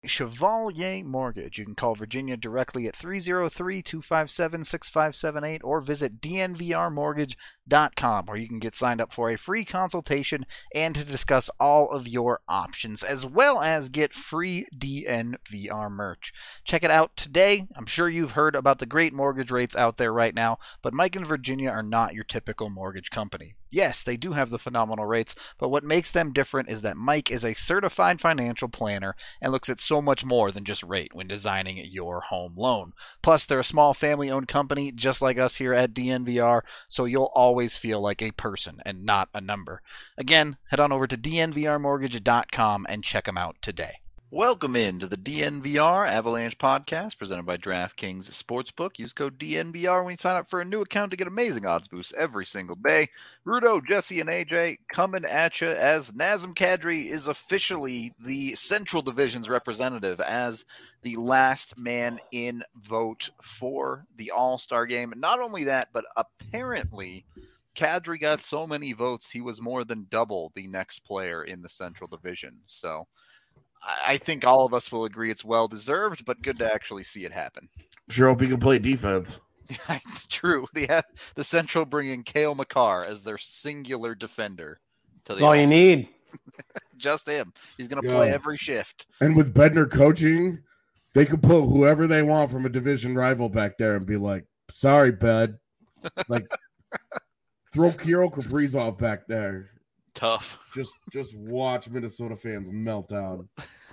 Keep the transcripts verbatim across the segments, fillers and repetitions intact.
Chevalier Mortgage. You can call Virginia directly at three oh three, two five seven, six five seven eight or visit d n v r mortgage dot com, where you can get signed up for a free consultation and to discuss all of your options, as well as get free D N V R merch. Check it out today. I'm sure you've heard about the great mortgage rates out there right now, but Mike and Virginia are not your typical mortgage company. Yes, they do have the phenomenal rates, but what makes them different is that Mike is a certified financial planner and looks at so much more than just rate when designing your home loan. Plus, they're a small family-owned company just like us here at D N V R, so you'll always feel like a person and not a number. Again, head on over to d n v r mortgage dot com and check them out today. Welcome in to the D N V R Avalanche podcast presented by DraftKings Sportsbook. Use code D N V R when you sign up for a new account to get amazing odds boosts every single day. Rudo, Jesse, and A J coming at you as Nazem Kadri is officially the Central Division's representative as the last man in vote for the All-Star game. Not only that, but apparently Kadri got so many votes, he was more than double the next player in the Central Division. So I think all of us will agree it's well-deserved, but good to actually see it happen. Sure hope he can play defense. True. The, the Central bringing Cale Makar as their singular defender. To That's all you need. Just him. He's going to Yeah. play every shift. And with Bednar coaching, they could put whoever they want from a division rival back there and be like, sorry, Bed. Like, throw Kirill Kaprizov back there. Tough. Just just watch Minnesota fans melt down.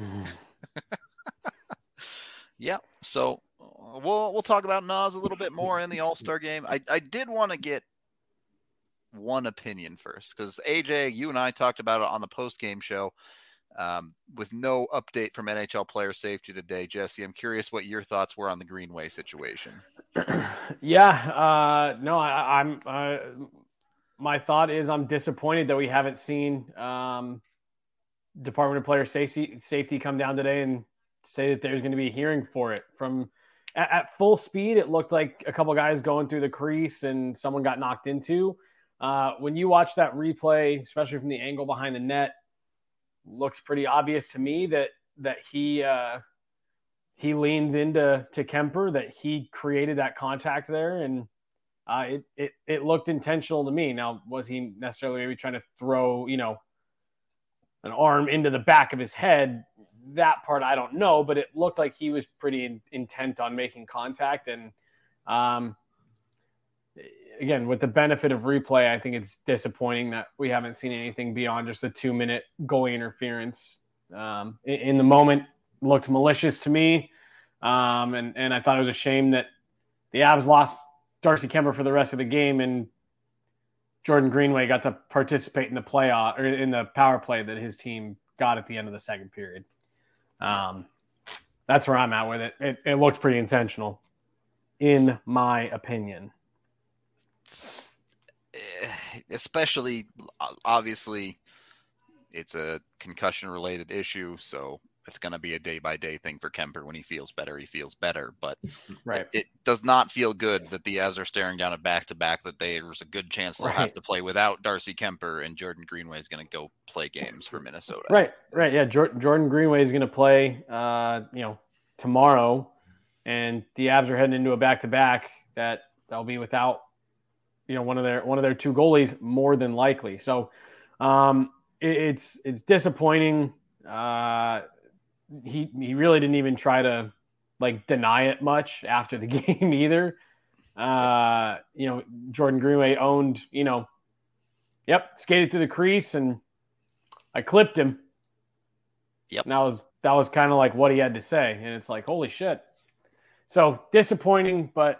Yeah. So uh, we'll we'll talk about Nas a little bit more in the All-Star game. I, I did want to get one opinion first because A J, you and I talked about it on the post-game show um, with no update from N H L player safety today. Jesse, I'm curious what your thoughts were on the Greenway situation. yeah. Uh, no, I, I'm. Uh, My thought is I'm disappointed that we haven't seen um, Department of Player Safety, safety come down today and say that there's going to be a hearing for it. From at, at full speed, it looked like a couple guys going through the crease and someone got knocked into. Uh, when you watch that replay, especially from the angle behind the net, looks pretty obvious to me that that he uh, he leans into to Kemper, that he created that contact there, and Uh, it, it it looked intentional to me. Now, was he necessarily maybe trying to throw, you know, an arm into the back of his head? That part I don't know, but it looked like he was pretty in, intent on making contact. And um, again, with the benefit of replay, I think it's disappointing that we haven't seen anything beyond just a two-minute goalie interference. Um, in, in the moment, looked malicious to me, um, and and I thought it was a shame that the Avs lost Darcy Kemper for the rest of the game, and Jordan Greenway got to participate in the playoff or in the power play that his team got at the end of the second period. Um, that's where I'm at with it. It, it looked pretty intentional, in my opinion. Especially, obviously, it's a concussion-related issue, so it's going to be a day-by-day thing for Kemper. When he feels better, he feels better. But right. it, it does not feel good that the Avs are staring down a back-to-back, that they, there's a good chance they'll right. have to play without Darcy Kemper, and Jordan Greenway is going to go play games for Minnesota. Right, right, yeah. Jordan Greenway is going to play, uh, you know, tomorrow, and the Avs are heading into a back-to-back that they'll be without, you know, one of their one of their two goalies more than likely. So um, it, it's it's disappointing. Uh, He he really didn't even try to like deny it much after the game either. Uh, you know, Jordan Greenway owned, you know, yep, skated through the crease and I clipped him. Yep. And that was that was kind of like what he had to say. And it's like, holy shit. So disappointing, but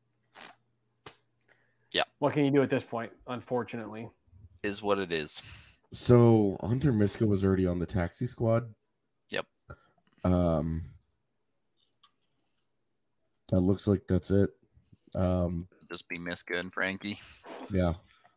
yeah, what can you do at this point, unfortunately? Is what it is. So Hunter Miska was already on the taxi squad. Yep. Um, that looks like that's it. Um, just be Miska and Frankie. Yeah.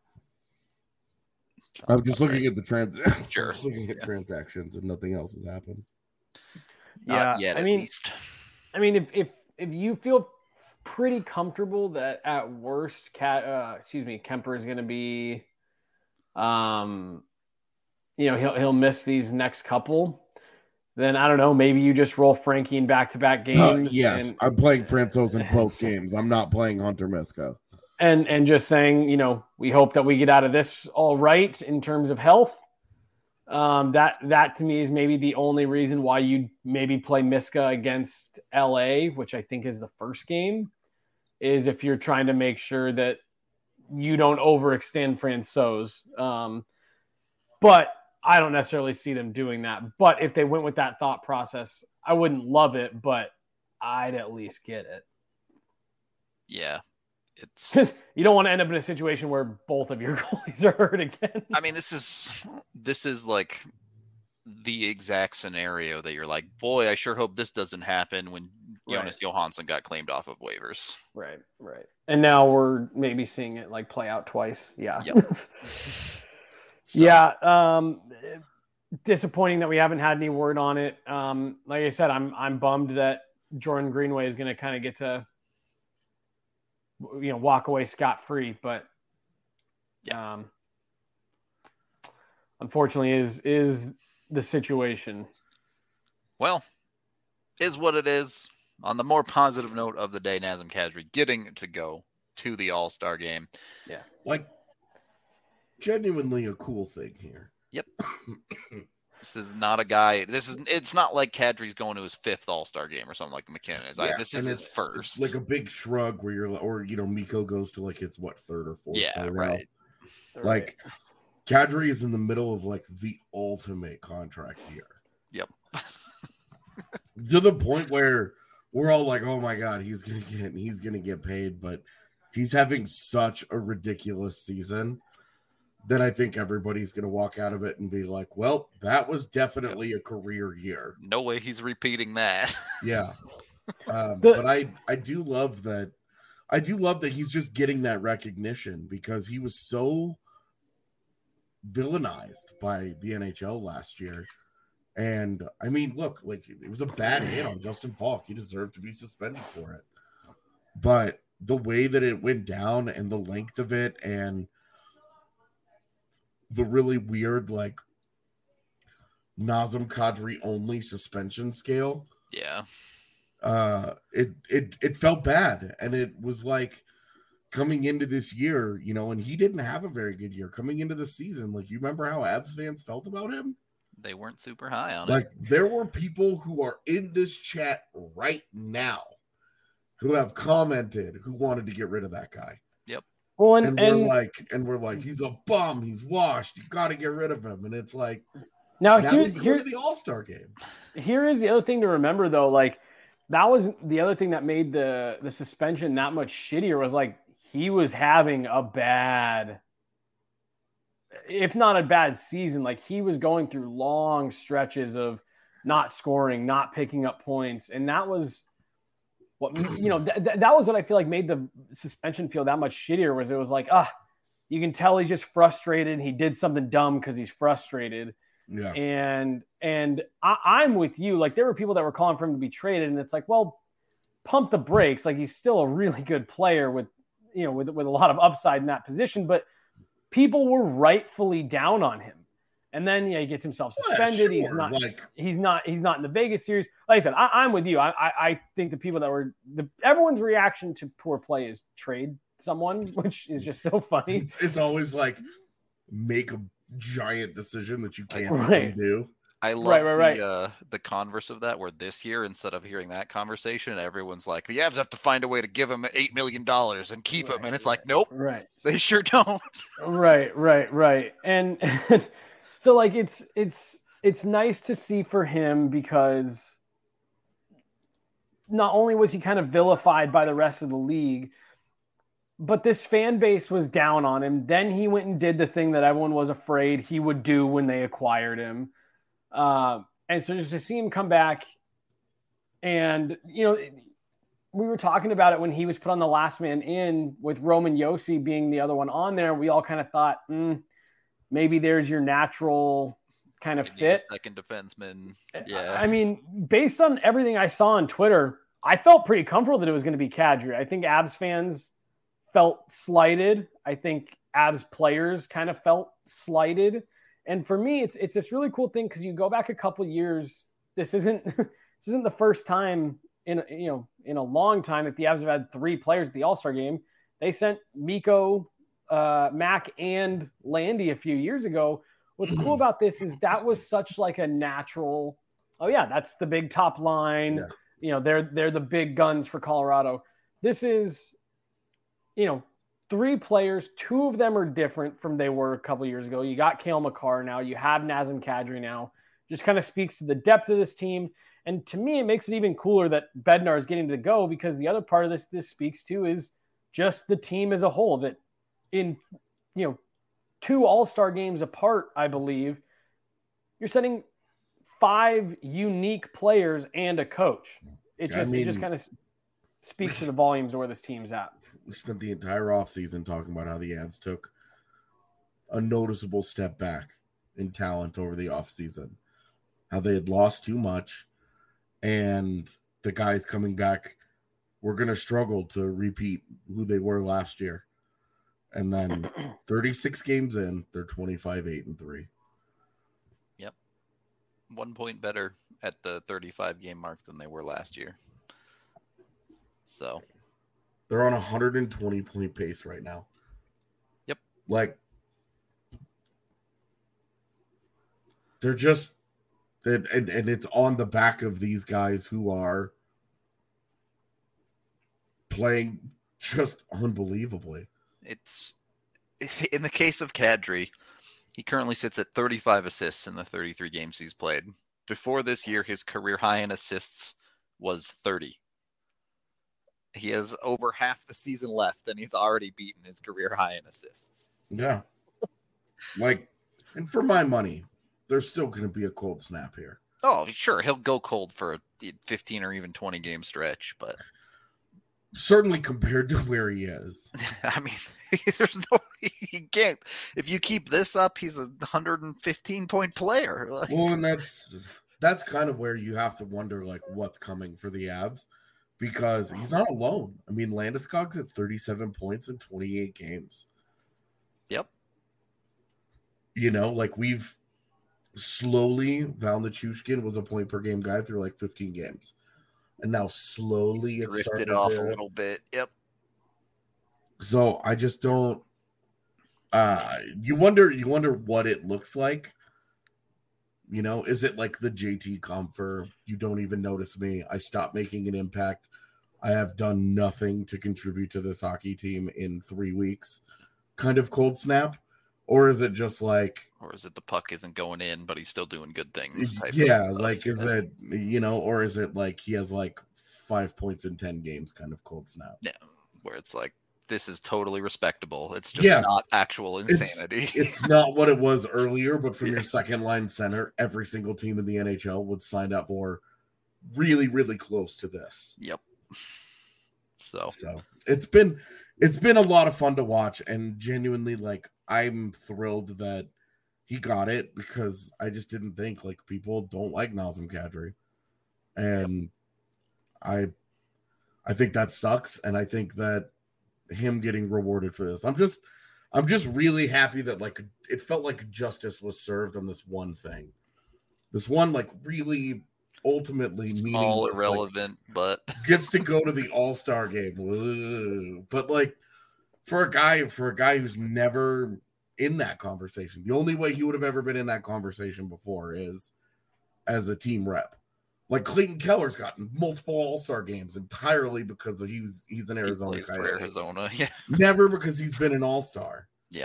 I'm just looking at the trans. Sure. just looking at yeah. transactions, and nothing else has happened. Not yeah, yet, I at mean, least. I mean, if if if you feel pretty comfortable that at worst, Cat, uh, excuse me, Kemper is going to be, um, you know, he'll he'll miss these next couple, then I don't know, maybe you just roll Frankie in back-to-back games. Uh, yes, and, I'm playing Francouz in both games. I'm not playing Hunter Miska. And and just saying, you know, we hope that we get out of this all right in terms of health. Um, that that to me is maybe the only reason why you maybe play Miska against L A, which I think is the first game, is if you're trying to make sure that you don't overextend Francouz. Um, but I don't necessarily see them doing that. But if they went with that thought process, I wouldn't love it, but I'd at least get it. Yeah. It's Because you don't want to end up in a situation where both of your goalies are hurt again. I mean, this is this is like the exact scenario that you're like, boy, I sure hope this doesn't happen when Jonas Right. Johansson got claimed off of waivers. Right, right. And now we're maybe seeing it like play out twice. Yeah. Yep. So, Yeah. Um, disappointing that we haven't had any word on it. Um, like I said, I'm I'm bummed that Jordan Greenway is going to kind of get to, you know, walk away scot-free, but Yeah. um, unfortunately is is the situation. Well, is what it is. On the more positive note of the day, Nazem Kadri getting to go to the All-Star game. Like, genuinely a cool thing here. Yep. This is not a guy. This is. It's not like Kadri's going to his fifth All-Star game or something like McKinnon is. Like, Yeah, this is and his it's- first. it's like a big shrug where you're, or you know, Miko goes to like his what third or fourth. Yeah, go now. right. Like, Kadri is in the middle of like the ultimate contract year. Yep. To the point where we're all like, "Oh my god, he's gonna get, he's gonna get paid," but he's having such a ridiculous season that I think everybody's gonna walk out of it and be like, "Well, that was definitely a career year." No way he's repeating that. Yeah, um, The- but I I do love that. I do love that he's just getting that recognition because he was so villainized by the N H L last year. And I mean, look, like it was a bad hit on Justin Falk. He deserved to be suspended for it. But the way that it went down and the length of it and the really weird, like Nazem Kadri only suspension scale, Yeah. uh, it it it felt bad. And it was like coming into this year, you know, and he didn't have a very good year coming into the season. Like, you remember how Avs fans felt about him? They weren't super high on Like, it. there were people who are in this chat right now who have commented who wanted to get rid of that guy. Well, and, And, and we're like, and we're like, he's a bum. He's washed. You got to get rid of him. And it's like, now now here's he's here, going to the All-Star game. here is the other thing to remember though. Like that was the other thing that made the the suspension that much shittier was like he was having a bad, if not a bad season. Like he was going through long stretches of not scoring, not picking up points, and that was what you know. Th- th- that was what I feel like made the suspension feel that much shittier. Was it was like ah, you can tell he's just frustrated. He did something dumb because he's frustrated. Yeah. And and I, I'm with you. Like there were people that were calling for him to be traded, and it's like, well, pump the brakes. Like he's still a really good player with, you know, with with a lot of upside in that position. But people were rightfully down on him. And then yeah, he gets himself Yeah, suspended. He's sure. not. Like, He's not. He's not in the Vegas series. Like I said, I, I'm with you. I, I I think the people that were the everyone's reaction to poor play is trade someone, which is just so funny. it's, it's always like make a giant decision that you can't Right. do. I love Right, right, right. the uh, the converse of that, where this year, instead of hearing that conversation, everyone's like, the Avs have to find a way to give him eight million dollars and keep him. Right, And it's like, nope, Right. they sure don't. Right, right, right. And, and so like it's it's it's nice to see for him because not only was he kind of vilified by the rest of the league, but this fan base was down on him. Then he went and did the thing that everyone was afraid he would do when they acquired him. Uh, and so just to see him come back and, you know, we were talking about it when he was put on the last man in with Roman Josi being the other one on there. We all kind of thought, mm, maybe there's your natural kind of You need a fit. second defenseman. Yeah. I mean, based on everything I saw on Twitter, I felt pretty comfortable that it was going to be Kadri. I think Abs fans felt slighted. I think Abs players kind of felt slighted. And for me, it's it's this really cool thing because you go back a couple years this isn't this isn't the first time in you know in a long time that the Avs have had three players at the All-Star game. They sent Mikko, uh, Mac, and Landy a few years ago. What's cool about this is that was such like a natural. Oh yeah, that's the big top line. Yeah. You know, they're they're the big guns for Colorado. This is, you know, three players. Two of them are different from they were a couple years ago. You got Cale Makar now. You have Nazem Kadri now. Just kind of speaks to the depth of this team. And to me, it makes it even cooler that Bednar is getting to go, because the other part of this this speaks to is just the team as a whole. That in, you know, two All-Star games apart, I believe, you're sending five unique players and a coach. It just I mean, it just kind of speaks to the volumes of where this team's at. We spent the entire offseason talking about how the Avs took a noticeable step back in talent over the offseason, how they had lost too much, and the guys coming back were going to struggle to repeat who they were last year. And then thirty-six games in, they're twenty-five, eight, and three. Yep. One point better at the thirty-five game mark than they were last year. So they're on a one hundred twenty point pace right now. Yep. Like, they're just, and, and, and it's on the back of these guys who are playing just unbelievably. It's, in the case of Kadri, he currently sits at thirty-five assists in the thirty-three games he's played. Before this year, his career high in assists was thirty. He has over half the season left, and he's already beaten his career high in assists. Yeah. Like, and for my money, there's still going to be a cold snap here. Oh, sure. He'll go cold for a fifteen or even twenty game stretch, but certainly compared to where he is. I mean, there's no, he can't, if you keep this up, he's a one hundred fifteen point player. Like, well, and that's, that's kind of where you have to wonder, like, what's coming for the Avs, because he's not alone. I mean, Landeskog's at thirty-seven points in twenty-eight games. Yep. You know, like, we've slowly, Val Nichushkin was a point per game guy through like fifteen games. And now slowly it's drifted off to, a little bit. Yep. So I just don't. Uh, you wonder. You wonder what it looks like. You know, is it like the J T Compher? You don't even notice me. I stopped making an impact. I have done nothing to contribute to this hockey team in three weeks. Kind of cold snap, or is it just like? Or is it the puck isn't going in, but he's still doing good things? Type yeah, of like is yeah. it, you know, or is it like he has like five points in ten games kind of cold snap? Yeah, where it's like, this is totally respectable. It's just yeah. not actual insanity. It's, it's not what it was earlier, but from your second line center, every single team in the N H L would sign up for really, really close to this. Yep. So, so it's been it's been a lot of fun to watch, and genuinely, like, I'm thrilled that he got it, because I just didn't think, like, people don't like Nazem Kadri. And I I think that sucks, and I think that him getting rewarded for this. I'm just I'm just really happy that, like, it felt like justice was served on this one thing. This one, like, really ultimately small, irrelevant, like, but gets to go to the All-Star game. Ugh. But like for a guy for a guy who's never in that conversation, the only way he would have ever been in that conversation before is as a team rep. Like Clayton Keller's gotten multiple All-Star games entirely because he was he's an Arizona he guy. For Arizona, yeah. Never because he's been an All-Star. Yeah.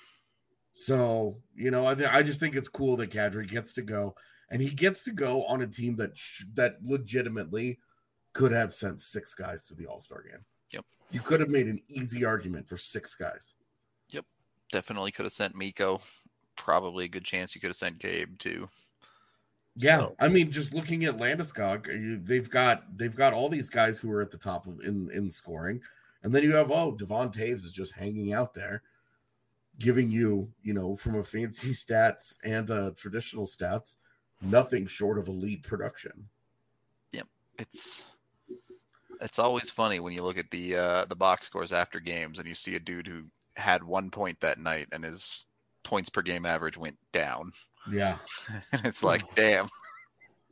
So, you know, I th- I just think it's cool that Kadri gets to go, and he gets to go on a team that sh- that legitimately could have sent six guys to the All-Star game. Yep. You could have made an easy argument for six guys. Yep. Definitely could have sent Mikko. Probably a good chance you could have sent Gabe too. Yeah, so. I mean, just looking at Landeskog, they've got they've got all these guys who are at the top of in, in scoring, and then you have oh, Devon Taves is just hanging out there, giving you, you know, from a fancy stats and uh, traditional stats, nothing short of elite production. Yep, it's it's always funny when you look at the uh, the box scores after games and you see a dude who had one point that night and his points per game average went down. Yeah. And it's like, damn.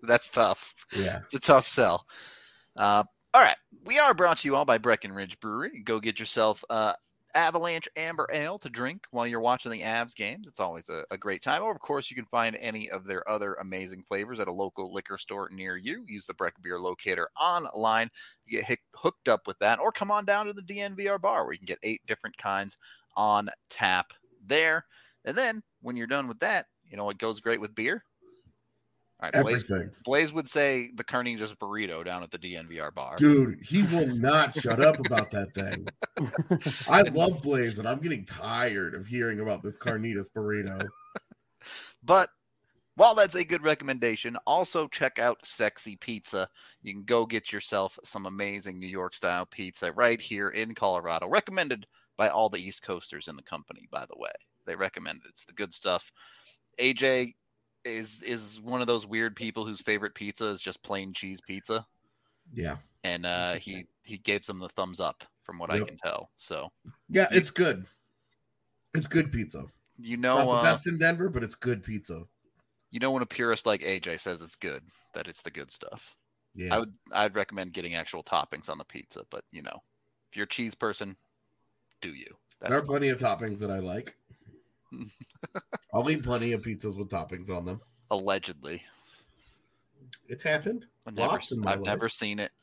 That's tough. Yeah. It's a tough sell. Uh, all right. We are brought to you all by Breckenridge Brewery. Go get yourself uh, Avalanche Amber Ale to drink while you're watching the Avs games. It's always a, a great time. Or, of course, you can find any of their other amazing flavors at a local liquor store near you. Use the Breck Beer Locator online. You get hic- hooked up with that. Or come on down to the D N V R bar where you can get eight different kinds on tap there. And then when you're done with that, you know what goes great with beer? All right, Blaze, Everything. Blaze would say the Carnitas burrito down at the D N V R bar. Dude, he will not shut up about that thing. I love Blaze, and I'm getting tired of hearing about this Carnitas burrito. But while that's a good recommendation, also check out Sexy Pizza. You can go get yourself some amazing New York-style pizza right here in Colorado. Recommended by all the East Coasters in the company, by the way. They recommend it. It's the good stuff. A J is is one of those weird people whose favorite pizza is just plain cheese pizza. Yeah. And uh, he, he gave them the thumbs up from what yep. I can tell. So yeah, it's good. It's good pizza. You know, it's not the uh, best in Denver, but it's good pizza. You know, when a purist like A J says it's good, that it's the good stuff. Yeah. I would I'd recommend getting actual toppings on the pizza, but you know, if you're a cheese person, do you? That's there are plenty fine. of toppings that I like. I'll eat plenty of pizzas with toppings on them. Allegedly. It's happened. I've, never, I've never seen it.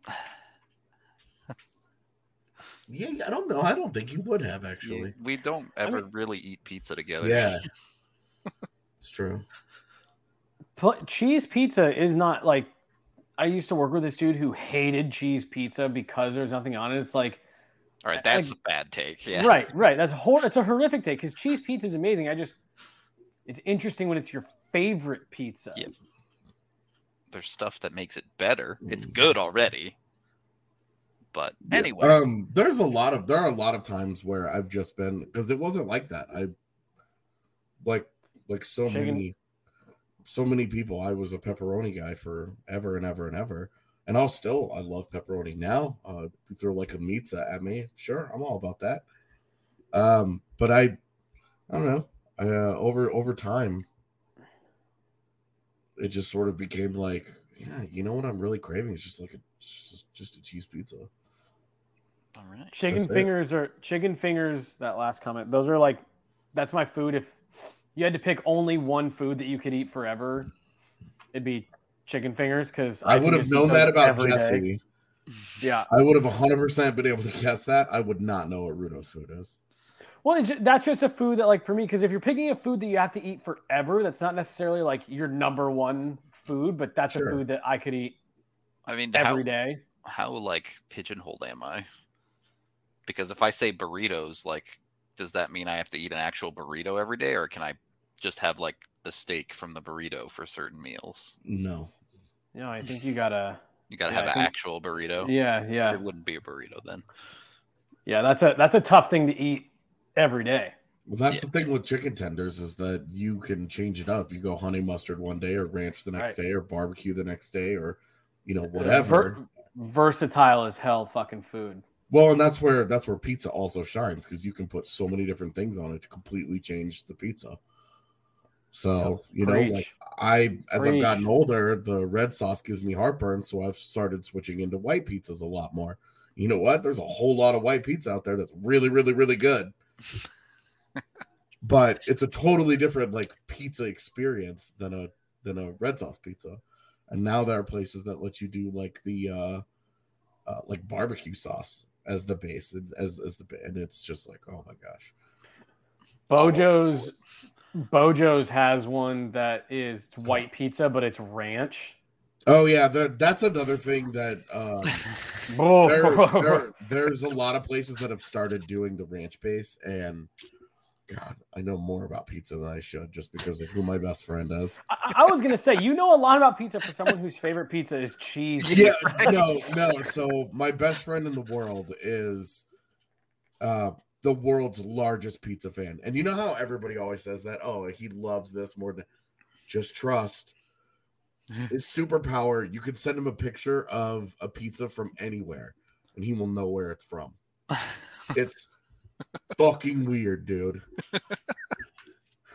Yeah, I don't know. I don't think you would have, actually. We don't ever I mean, really eat pizza together. Yeah. It's true. Cheese pizza is not like, I used to work with this dude who hated cheese pizza because there's nothing on it. It's like, all right, that's like, a bad take. Yeah. Right, right. That's hor- It's a horrific take because cheese pizza is amazing. I just, it's interesting when it's your favorite pizza. Yeah. There's stuff that makes it better. It's good already. But anyway, um, there's a lot of there are a lot of times where I've just been because it wasn't like that. I like like so Chicken. many so many people. I was a pepperoni guy for ever and ever and ever, and I'll still I love pepperoni now. Uh, you throw like a pizza at me, sure, I'm all about that. Um, but I I don't know. Uh, over over time, it just sort of became like, yeah, you know what I'm really craving is just like a just, just a cheese pizza. All right. Chicken That's fingers it. or chicken fingers, that last comment, those are like, that's my food. If you had to pick only one food that you could eat forever, it'd be chicken fingers. Because I, I would have known that about Jesse. Day. Yeah. I would have one hundred percent been able to guess that. I would not know what Rudo's food is. Well, it's just, that's just a food that, like, for me, because if you're picking a food that you have to eat forever, that's not necessarily like your number one food, but that's sure. a food that I could eat I mean, every how, day. How, like, pigeonholed am I? Because if I say burritos, like, does that mean I have to eat an actual burrito every day, or can I just have, like, the steak from the burrito for certain meals? No. No, I think you gotta... You gotta yeah, have think, an actual burrito. Yeah, yeah. It wouldn't be a burrito then. Yeah, that's a that's a tough thing to eat every day. Well, that's yeah. the thing with chicken tenders is that you can change it up. You go honey mustard one day, or ranch the next right. day, or barbecue the next day, or you know whatever. Ver- versatile as hell, fucking food. Well, and that's where that's where pizza also shines because you can put so many different things on it to completely change the pizza. So you Preach. know, like I as Preach. I've gotten older, the red sauce gives me heartburn, so I've started switching into white pizzas a lot more. You know what? There's a whole lot of white pizza out there that's really, really, really good. But it's a totally different like pizza experience than a than a red sauce pizza. And now there are places that let you do like the uh, uh like barbecue sauce as the base and as as the and it's just like, oh my gosh. Bojo's Bojo's has one that is white pizza, but it's ranch. Oh yeah, that that's another thing that um, there, there, there's a lot of places that have started doing the ranch base, and God, I know more about pizza than I should just because of who my best friend is. I, I was gonna say, you know a lot about pizza for someone whose favorite pizza is cheese. Yeah, pizza. no, no. So my best friend in the world is uh, the world's largest pizza fan, and you know how everybody always says that? Oh, he loves this more than. Just trust. His superpower, you could send him a picture of a pizza from anywhere and he will know where it's from. It's fucking weird, dude.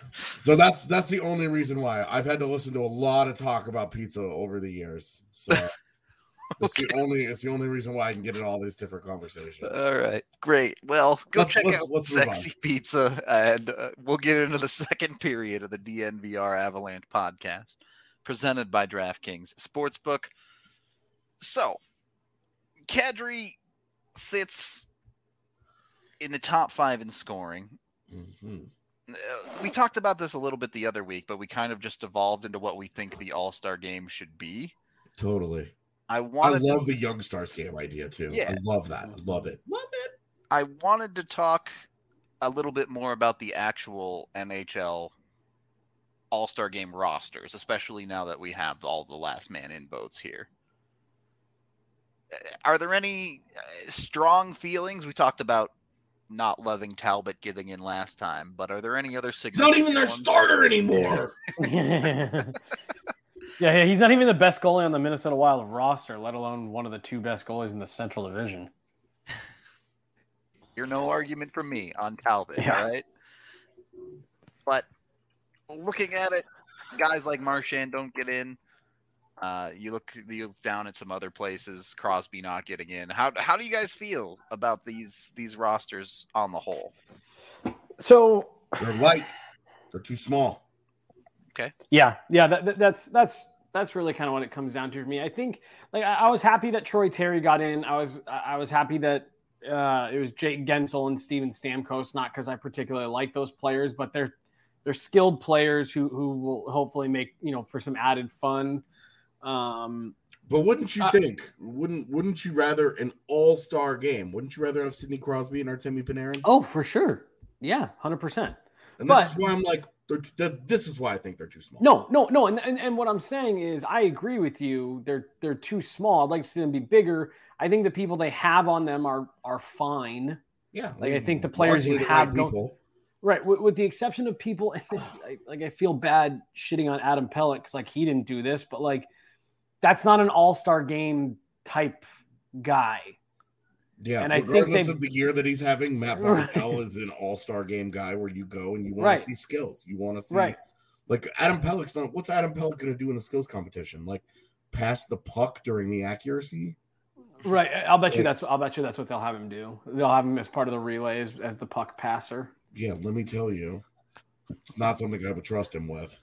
So that's that's the only reason why I've had to listen to a lot of talk about pizza over the years. So that's Okay. the only it's the only reason why I can get in all these different conversations. All right, great. Well, go Let's- check let's- out let's move Sexy Pizza, and uh, we'll get into the second period of the D N V R Avalanche podcast, presented by DraftKings Sportsbook. So, Kadri sits in the top five in scoring. Mhm. Uh, We talked about this a little bit the other week, but we kind of just evolved into what we think the All-Star game should be. Totally. I I wanted love the Young Stars game idea too. Yeah. I love that. I love it. Love it. I wanted to talk a little bit more about the actual N H L All-Star Game rosters, especially now that we have all the last man in votes here. Uh, Are there any uh, strong feelings? We talked about not loving Talbot getting in last time, but are there any other It's not even their significant ones? starter anymore. Yeah, he's not even the best goalie on the Minnesota Wild roster, let alone one of the two best goalies in the Central Division. You're no argument from me on Talbot, Yeah. right? But looking at it, guys like Marchand don't get in. Uh, you look you look down at some other places, Crosby not getting in. How how do you guys feel about these these rosters on the whole? So They're light. They're too small. yeah, yeah, that, that, that's that's that's really kind of what it comes down to for me. I think like I, I was happy that Troy Terry got in. I was I was happy that uh, it was Jake Gensel and Steven Stamkos, not because I particularly like those players, but they're they're skilled players who who will hopefully make, you know, for some added fun. Um, But wouldn't you Uh, think? Wouldn't Wouldn't you rather an All Star game? Wouldn't you rather have Sidney Crosby and Artemi Panarin? oh, for sure. Yeah, one hundred percent. And but- this is why I'm like, they're, they're, this is why I think they're too small. No, no, no. And, and and what I'm saying is I agree with you. They're they're too small. I'd like to see them be bigger. I think the people they have on them are are fine. Yeah, Like, I think the players you largely the have right don't- people. Right, with, with the exception of people, and this, I, like I feel bad shitting on Adam Pelech because like he didn't do this, but like that's not an all-star game type guy. Yeah, and I think regardless they've- of the year that he's having, Matt Right. Barzal is an All Star game guy where you go and you want Right. to see skills. You want to see Right. like Adam Pelech's not. What's Adam Pelech going to do in a skills competition? Like pass the puck during the accuracy? Right. I'll bet you Yeah. that's I'll bet you that's what they'll have him do. They'll have him as part of the relay as, as the puck passer. Yeah, let me tell you, it's not something I would trust him with,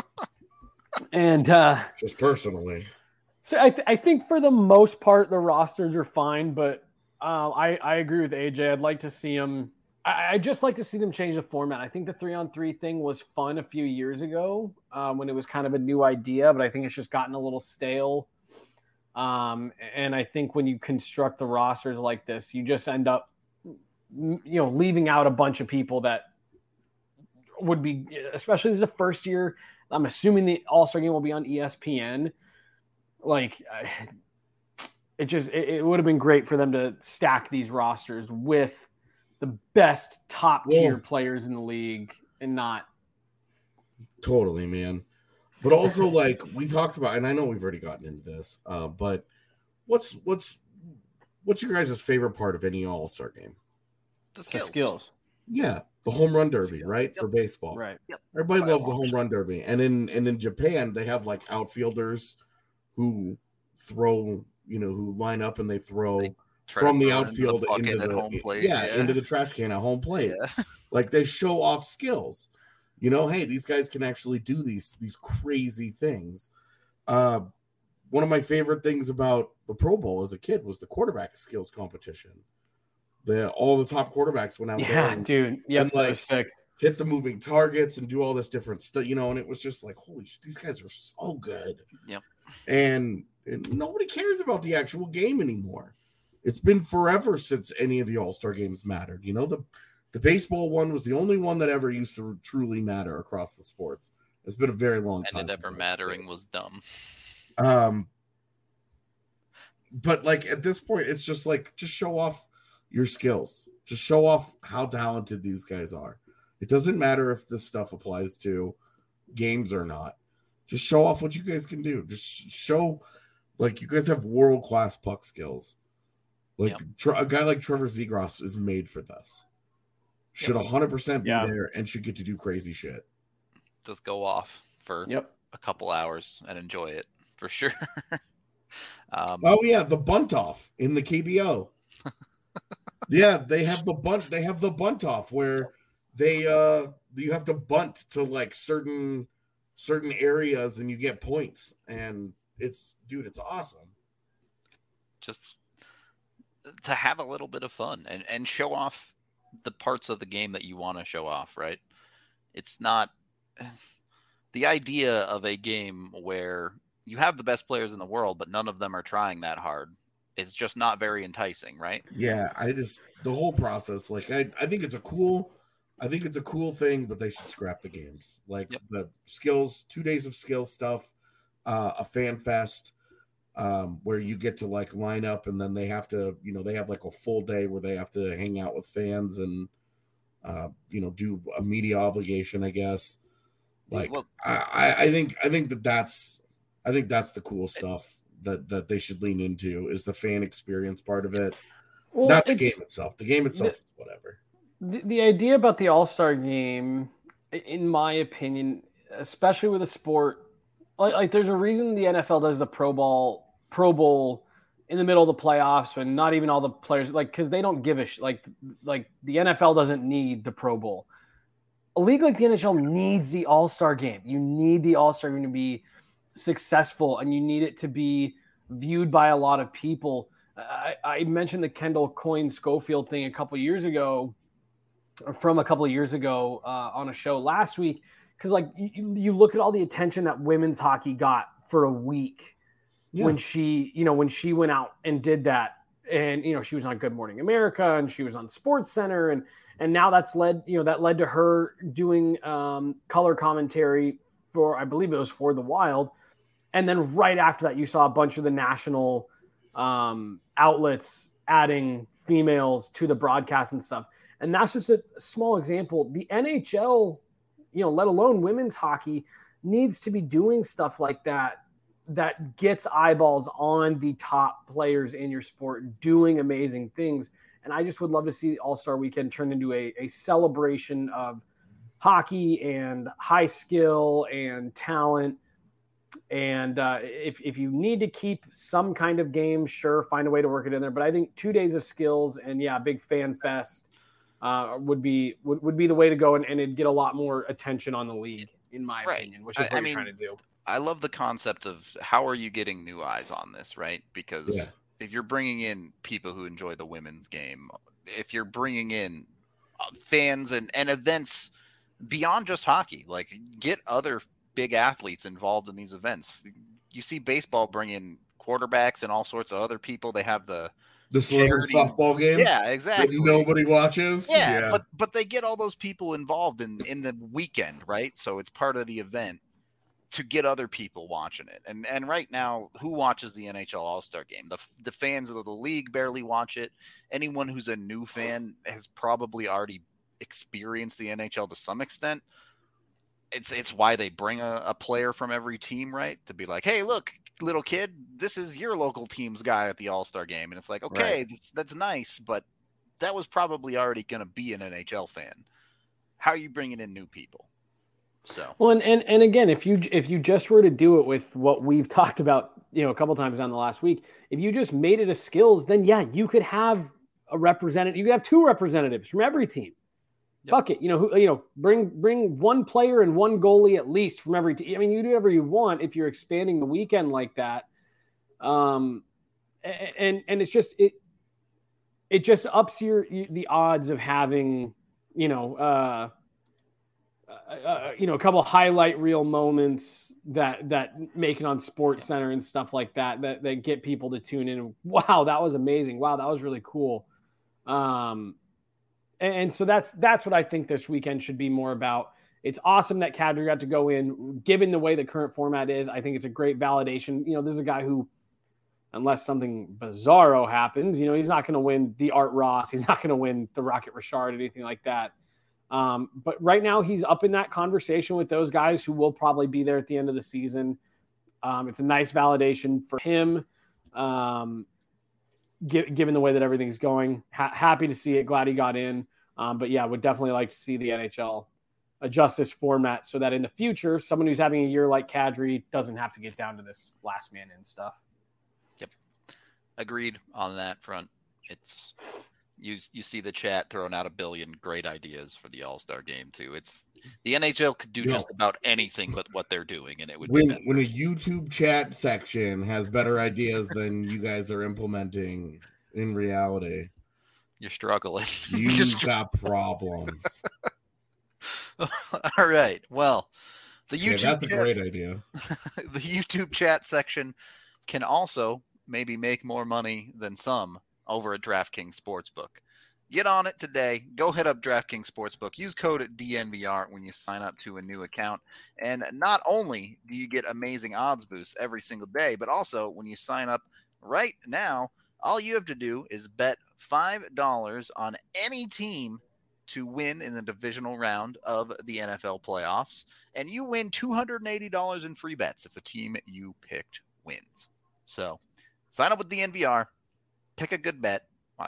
And uh just personally. So I, th- I think for the most part the rosters are fine, but uh, I I agree with A J. I'd like to see them. I I just like to see them change the format. I think the three on three thing was fun a few years ago um, when it was kind of a new idea, but I think it's just gotten a little stale. Um, and I think when you construct the rosters like this, you just end up, you know, leaving out a bunch of people that would be, especially as a first year. I'm assuming the All-Star game will be on E S P N. Like, I- it just it, it would have been great for them to stack these rosters with the best top tier Well- players in the league and not. Totally, man. But also, like we talked about, and I know we've already gotten into this, uh, but what's what's what's your guys' favorite part of any All Star game? The The skills. skills. Yeah, the home run derby, Skills. right? Yep. For baseball. Right. Everybody By loves the launch. home run derby. And in and in Japan, they have like outfielders who throw, you know, who line up and they throw They try from to the throw it into outfield the bucket into at the home plate. yeah, into the trash can at home plate. Yeah. Like they show off skills. You know, hey, these guys can actually do these these crazy things. Uh, one of my favorite things about the Pro Bowl as a kid was the quarterback skills competition. The all the top quarterbacks went out there Yeah, and dude. Yep, and, that like, was sick. hit the moving targets and do all this different stuff, you know, and it was just like, holy shit, these guys are so good. Yep. And, and nobody cares about the actual game anymore. It's been forever since any of the All-Star games mattered. You know, the the baseball one was the only one that ever used to truly matter across the sports. It's been a very long time. And it since ever I've mattering played. was dumb. Um, but like at this point, it's just like just show off your skills. Just show off how talented these guys are. It doesn't matter if this stuff applies to games or not. Just show off what you guys can do. Just show like you guys have world class puck skills. Like Yep. Tre- a guy like Trevor Zegras is made for this. Should Yep. one hundred percent be Yeah. there and should get to do crazy shit. just go off for Yep. a couple hours and enjoy it for sure. um, Oh yeah, the bunt off in the K B O. Yeah, they have the bunt. They have the bunt off where they uh you have to bunt to like certain certain areas and you get points, and it's dude, it's awesome. Just to have a little bit of fun and and show off the parts of the game that you want to show off, right? It's not the idea of a game where you have the best players in the world, but none of them are trying that hard. It's just not very enticing, right? Yeah, I just the whole process, like I, I think it's a cool, I think it's a cool thing, but they should scrap the games. Like Yep. the skills, two days of skill stuff, uh, a fan fest, um, where you get to like line up, and then they have to, you know, they have like a full day where they have to hang out with fans and, uh, you know, do a media obligation, I guess. Like Well- I, I think, I think that that's, I think that's the cool stuff that that they should lean into is the fan experience part of it. Well, Not the it's- game itself. The game itself is whatever. The, the idea about the All-Star game, in my opinion, especially with a sport, like, like there's a reason the N F L does the Pro Bowl, Pro Bowl in the middle of the playoffs when not even all the players, like, because they don't give a sh- like, like the N F L doesn't need the Pro Bowl. A league like the N H L needs the All-Star game. You need the All-Star game to be successful, and you need it to be viewed by a lot of people. I, I mentioned the Kendall Coyne Schofield thing a couple years ago, or from a couple of years ago uh, on a show last week, because like you, you look at all the attention that women's hockey got for a week Yeah. when she, you know, when she went out and did that, and you know she was on Good Morning America and she was on Sports Center, and and now that's led, you know, that led to her doing um, color commentary for, I believe it was for the Wild. And then right after that, you saw a bunch of the national um, outlets adding females to the broadcast and stuff. And that's just a small example. The N H L, you know, let alone women's hockey, needs to be doing stuff like that, that gets eyeballs on the top players in your sport doing amazing things. And I just would love to see All-Star Weekend turn into a, a celebration of hockey and high skill and talent. And uh, if, if you need to keep some kind of game, sure, find a way to work it in there. But I think two days of skills and, yeah, big fan fest uh, would be would, would be the way to go, and, and it'd get a lot more attention on the league, in my Right. opinion, which is I- what I you're mean, trying to do. I love the concept of how are you getting new eyes on this, right? Because Yeah. if you're bringing in people who enjoy the women's game, if you're bringing in uh, fans and, and events beyond just hockey, like get other big athletes involved in these events. You see baseball bring in quarterbacks and all sorts of other people. They have the The celebrity charity- softball game yeah, that exactly. nobody watches. Yeah, but but they get all those people involved in in the weekend, right? So it's part of the event to get other people watching it. And and right now, who watches the N H L All-Star game? The the fans of the league barely watch it. Anyone who's a new fan has probably already experienced the N H L to some extent. It's it's why they bring a, a player from every team, right? To be like, hey, look, little kid, this is your local team's guy at the All-Star game. And it's like, okay, Right. that's, that's nice, but that was probably already going to be an N H L fan. How are you bringing in new people? So, Well, and, and and again, if you if you just were to do it with what we've talked about, you know, a couple times on the last week, if you just made it a skills, then yeah, you could have a representative. You could have two representatives from every team. Yep. Fuck it, you know, who you know, bring bring one player and one goalie at least from every team. I mean, you do whatever you want if you're expanding the weekend like that. Um, a- and and it's just it it just ups your the odds of having, you know, uh. Uh, you know, a couple highlight reel moments that that make it on Sports Center and stuff like that, that that get people to tune in. Wow, that was amazing. Wow, that was really cool. Um, and, and so that's that's what I think this weekend should be more about. It's awesome that Kadri got to go in, given the way the current format is. I think it's a great validation. You know, this is a guy who, unless something bizarro happens, you know, he's not going to win the Art Ross. He's not going to win the Rocket Richard, anything like that. Um, but right now he's up in that conversation with those guys who will probably be there at the end of the season. Um, it's a nice validation for him, um, gi- given the way that everything's going. Ha- happy to see it. Glad he got in. Um, but yeah, would definitely like to see the N H L adjust this format so that in the future, someone who's having a year like Kadri doesn't have to get down to this last man in stuff. Yep. Agreed on that front. It's you you see the chat throwing out a billion great ideas for the All-Star game too. It's the N H L could do You just know, about anything but what they're doing, and it would when be better. when a YouTube chat section has better ideas than you guys are implementing in reality, You're struggling. you Just- got problems. All right. Well, the Yeah, YouTube that's a chat- great idea. the YouTube chat section can also maybe make more money than some over at DraftKings Sportsbook. Get on it today. Go hit up DraftKings Sportsbook. Use code D N V R when you sign up to a new account. And not only do you get amazing odds boosts every single day, but also when you sign up right now, all you have to do is bet five dollars on any team to win in the divisional round of the N F L playoffs. And you win two hundred eighty dollars in free bets if the team you picked wins. So sign up with D N V R. Pick a good bet. Uh,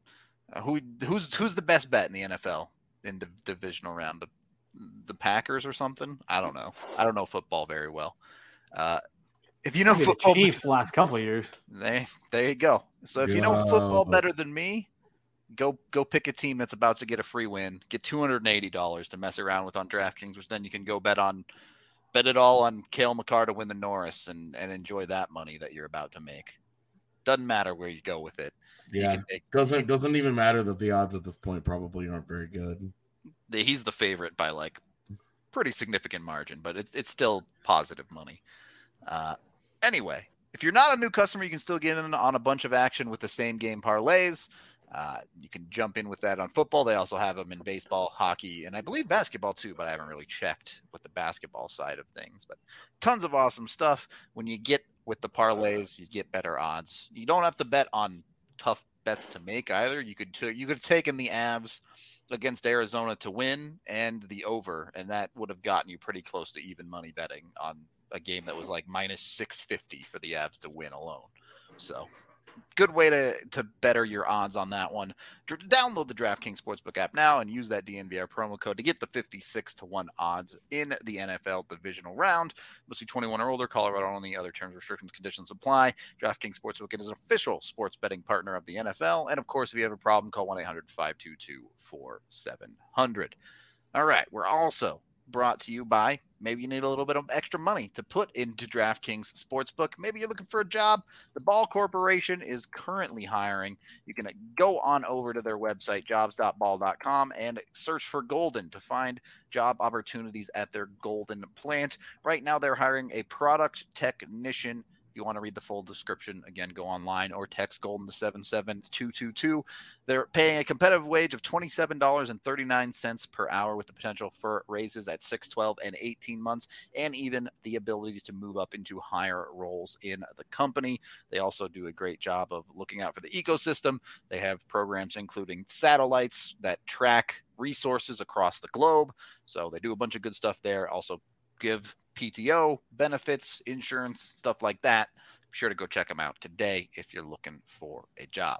who who's who's the best bet in the N F L in the divisional round? The the Packers or something? I don't know. I don't know football very well. Uh, if you know Maybe football, the Chiefs the last couple of years. they, there you go. So if you know football Go. better than me, go go pick a team that's about to get a free win. Get two hundred eighty dollars to mess around with on DraftKings, which then you can go bet on bet it all on Cale Makar to win the Norris and, and enjoy that money that you're about to make. Doesn't matter where you go with it. You Yeah, can make, doesn't doesn't even matter that the odds at this point probably aren't very good. the, he's the favorite by like pretty significant margin, but it, it's still positive money. Uh, anyway, if you're not a new customer, you can still get in on a bunch of action with the same game parlays. Uh, you can jump in with that on football. They also have them in baseball, hockey, and I believe basketball too, but I haven't really checked with the basketball side of things. But tons of awesome stuff. When you get with the parlays, you get better odds. You don't have to bet on tough bets to make either. You could t- you could have taken the Avs against Arizona to win and the over, and that would have gotten you pretty close to even money betting on a game that was like minus six fifty for the Avs to win alone. So good way to, to better your odds on that one. Dr- download the DraftKings Sportsbook app now and use that D N V R promo code to get the fifty-six to one odds in the N F L divisional round. Must be twenty-one or older. Colorado only. Other terms, restrictions, conditions apply. DraftKings Sportsbook is an official sports betting partner of the N F L. And of course, if you have a problem, call one eight hundred five two two four seven zero zero. All right. We're also brought to you by, maybe you need a little bit of extra money to put into DraftKings Sportsbook. Maybe you're looking for a job. The Ball Corporation is currently hiring. You can go on over to their website, jobs dot ball dot com, and search for Golden to find job opportunities at their Golden plant. Right now, they're hiring a product technician. If you want to read the full description, again, go online or text Golden to seven seven two two two. They're paying a competitive wage of twenty-seven dollars and thirty-nine cents per hour with the potential for raises at six, twelve, and eighteen months, and even the ability to move up into higher roles in the company. They also do a great job of looking out for the ecosystem. They have programs including satellites that track resources across the globe. So they do a bunch of good stuff there. Also give P T O benefits, insurance, stuff like that. Be sure to go check them out today if you're looking for a job.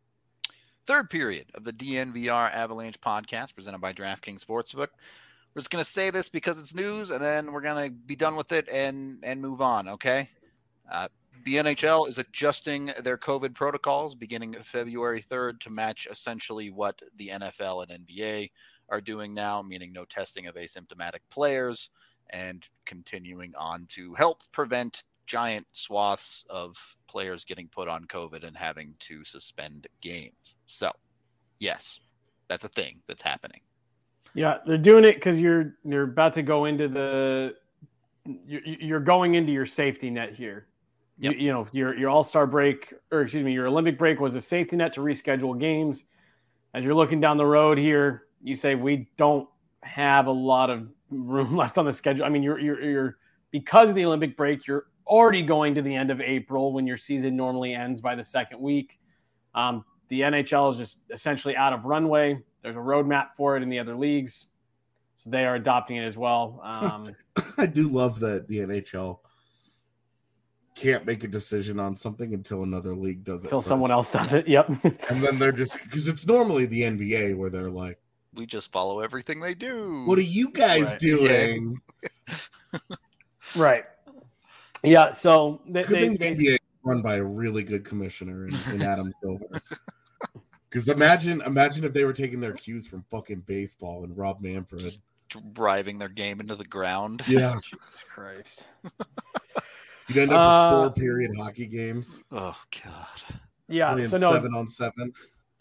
Third period of the D N V R Avalanche podcast presented by DraftKings Sportsbook. We're just going to say this because it's news, and then we're going to be done with it and, and move on, okay? Uh, the N H L is adjusting their COVID protocols beginning February third to match essentially what the N F L and N B A are doing now, meaning no testing of asymptomatic players, and continuing on to help prevent giant swaths of players getting put on COVID and having to suspend games. So, yes, that's a thing that's happening. Yeah, they're doing it because you're you're about to go into the you're, you're going into your safety net here. Yep. You, you know, your your All-Star break, or excuse me, your Olympic break was a safety net to reschedule games. As you're looking down the road here, you say we don't have a lot of room left on the schedule. I mean, you're you're you're because of the Olympic break, you're already going to the end of April when your season normally ends by the second week. Um, the N H L is just essentially out of runway. There's a roadmap for it in the other leagues, so they are adopting it as well. Um, I do love that the N H L can't make a decision on something until another league does it. until first. someone else does it. Yep. And then they're just, because it's normally the N B A where they're like, We just follow everything they do. What are you guys Right. doing? Right. Yeah. So they, It's a good they, thing the they, N B A is run by a really good commissioner in, in Adam Silver. Because imagine, imagine if they were taking their cues from fucking baseball and Rob Manfred. Just driving their game into the ground. Yeah, Jesus Christ. you'd end up Uh, with four period hockey games. Oh God. Yeah. Playing So no, seven on seven.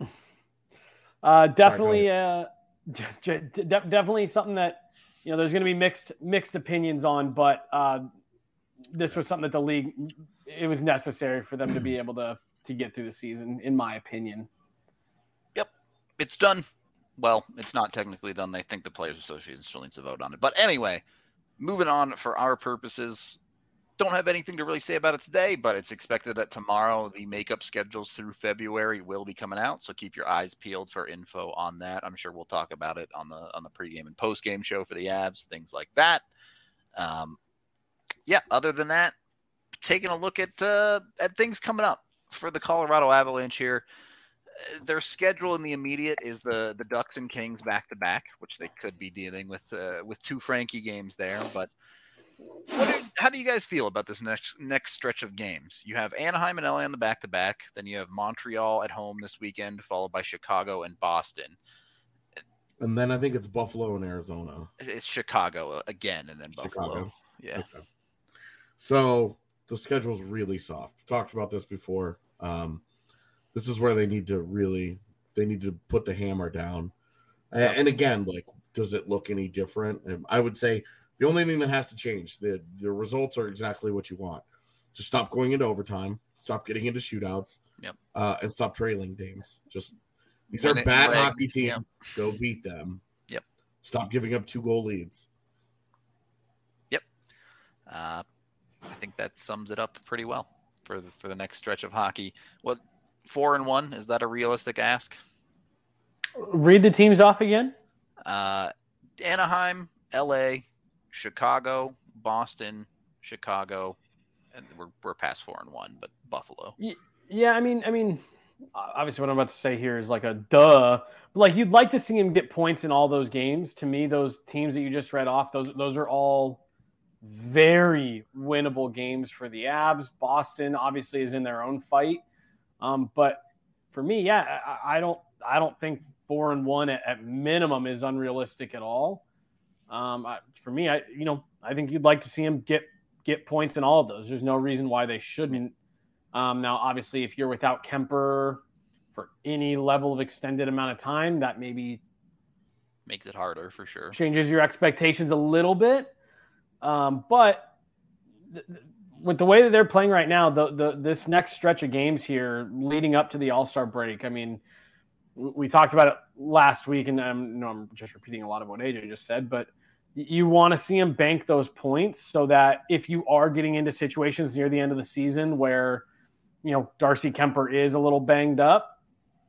Uh, definitely, uh, d- d- d- definitely something that you know there's going to be mixed mixed opinions on, but uh, this was something that the league it was necessary for them to be able to to get through the season, in my opinion. Yep, it's done. Well, it's not technically done. They think the Players Association still needs to vote on it. But anyway, moving on for our purposes. Don't have anything to really say about it today, but it's expected that tomorrow the makeup schedules through February will be coming out. So keep your eyes peeled for info on that. I'm sure we'll talk about it on the on the pregame and postgame show for the Avs, things like that. Um, yeah. Other than that, taking a look at uh, at things coming up for the Colorado Avalanche here. Their schedule in the immediate is the the Ducks and Kings back to back, which they could be dealing with uh, with two Frankie games there, but. What do, how do you guys feel about this next next stretch of games? You have Anaheim and L A on the back-to-back. Then you have Montreal at home this weekend, followed by Chicago and Boston. And then I think it's Buffalo and Arizona. It's Chicago again, and then Buffalo. Chicago. Yeah. Okay. So the schedule's really soft. We've talked about this before. Um, this is where they need to really they need to put the hammer down. And, and again, like, does it look any different? And I would say the only thing that has to change, the, the results are exactly what you want. Just stop going into overtime, stop getting into shootouts, Yep. uh, and stop trailing games. Just these Win are it, bad reg. hockey teams. Yep. Go beat them. Yep. Stop giving up two goal leads. Yep. Uh, I think that sums it up pretty well for the, for the next stretch of hockey. What four and one is that a realistic ask? Read the teams off again. Uh, Anaheim, L A, Chicago, Boston, Chicago, and we're we're past four and one, but Buffalo. Yeah, I mean, I mean, obviously, what I'm about to say here is like a duh. But like, you'd like to see him get points in all those games. To me, those teams that you just read off, those those are all very winnable games for the Avs. Boston obviously is in their own fight, um, but for me, yeah, I, I don't I don't think four and one at, at minimum is unrealistic at all. Um, I, for me, I you know I think you'd like to see him get get points in all of those. There's no reason why they shouldn't. Um, now, obviously, if you're without Kemper for any level of extended amount of time, that maybe Makes it harder for sure. changes your expectations a little bit. Um, but th- th- with the way that they're playing right now, the, the this next stretch of games here leading up to the All-Star break, I mean, w- we talked about it last week, and I'm, no, I'm just repeating a lot of what A J just said, but y- you want to see him bank those points so that if you are getting into situations near the end of the season where, you know, Darcy Kemper is a little banged up,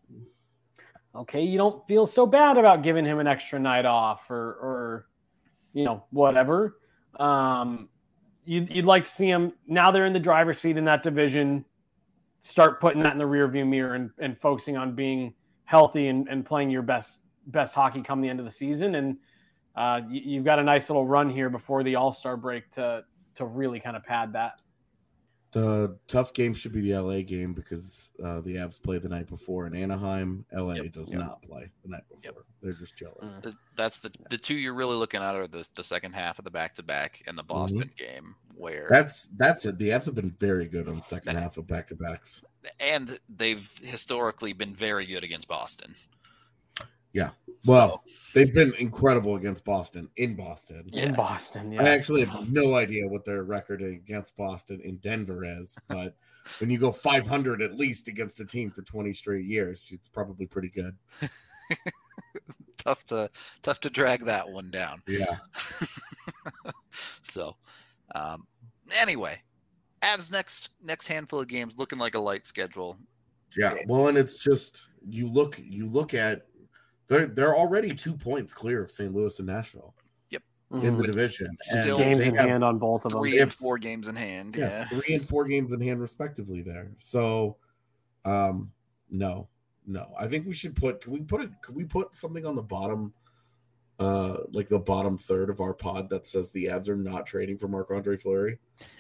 okay, you don't feel so bad about giving him an extra night off or, or you know, whatever. Um, you'd, you'd like to see him, now they're in the driver's seat in that division, start putting that in the rearview mirror and, and focusing on being healthy and, and playing your best best hockey come the end of the season. And uh, you, you've got a nice little run here before the All-Star break to to really kind of pad that. The tough game should be the L A game because uh, the Avs play the night before in Anaheim. L A Yep. does Yep. not play the night before. Yep. They're just chilling. Mm. The- That's the the two you're really looking at are the the second half of the back to back and the Boston game where That's that's it. The Avs have been very good on the second half of back to backs. and they've historically been very good against Boston. Yeah. Well, So, they've been incredible against Boston in Boston. Yeah. In Boston, yeah. I actually have no idea what their record against Boston in Denver is, but when you go five hundred at least against a team for twenty straight years, it's probably pretty good. tough to tough to drag that one down. Yeah. So, um, anyway, Avs next next handful of games looking like a light schedule. Yeah. Well, and it's just you look you look at they're they're already two points clear of Saint Louis and Nashville in the Mhm. division. Still And Games they in have- hand on both of them. Three and If- four games in hand. Yes, Yeah. three and four games in hand respectively there. So um no. No, I think we should put. Can we put it? Can we put something on the bottom, uh, like the bottom third of our pod that says the Avs are not trading for Marc-Andre Fleury?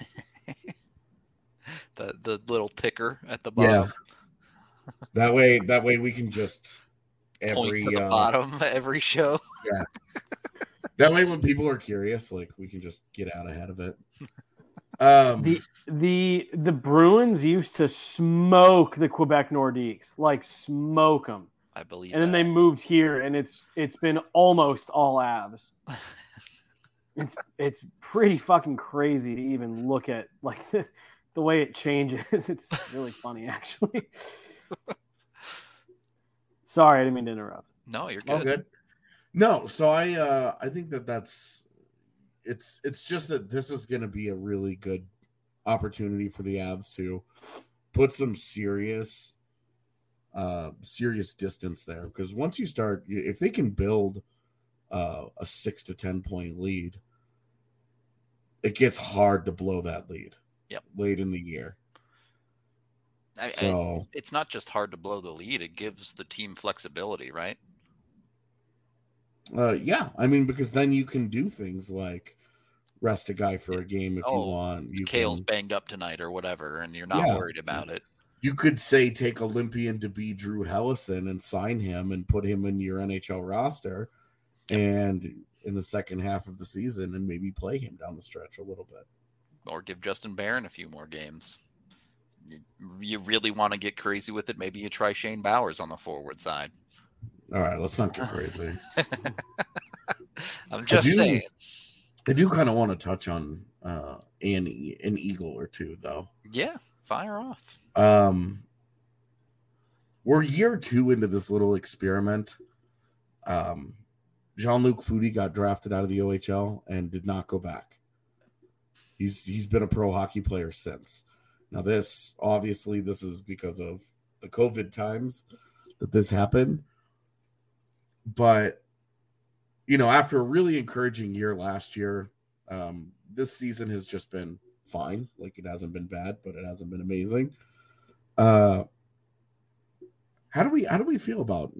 the the little ticker at the bottom. Yeah. That way, that way we can just every point to the uh, bottom every show. Yeah. That way, when people are curious, like we can just get out ahead of it. Um, the the the Bruins used to smoke the Quebec Nordiques, like smoke them. I believe. And then that. they moved here, and it's it's been almost all Avs. it's it's pretty fucking crazy to even look at like the, the way it changes. It's really funny, actually. Sorry, I didn't mean to interrupt. No, you're good. Oh, good. No, so I uh, I think that that's it's it's just that this is going to be a really good opportunity for the Avs to put some serious uh, serious distance there, because once you start, if they can build uh, a six to ten point lead, it gets hard to blow that lead. Yep. Late in the year. I, so I, it's not just hard to blow the lead; it gives the team flexibility, right? Uh, yeah, I mean, because then you can do things like rest a guy for a game if oh, you want. You Kale's can, banged up tonight or whatever, and you're not yeah. worried about it. You could say take Olympian to be Drew Hellison and sign him and put him in your N H L roster, yep. and in the second half of the season, and maybe play him down the stretch a little bit, or give Justin Barron a few more games. You really want to get crazy with it? Maybe you try Shane Bowers on the forward side. All right, let's not get crazy. I'm just I do, saying. I do kind of want to touch on uh, an, an Eagle or two, though. Yeah, fire off. Um, we're year two into this little experiment. Um, Jean-Luc Foudy got drafted out of the O H L and did not go back. He's he's been a pro hockey player since. Now, this obviously this is because of the COVID times that this happened. But, you know, after a really encouraging year last year, um, this season has just been fine. Like, it hasn't been bad, but it hasn't been amazing. Uh, how do we how do we feel about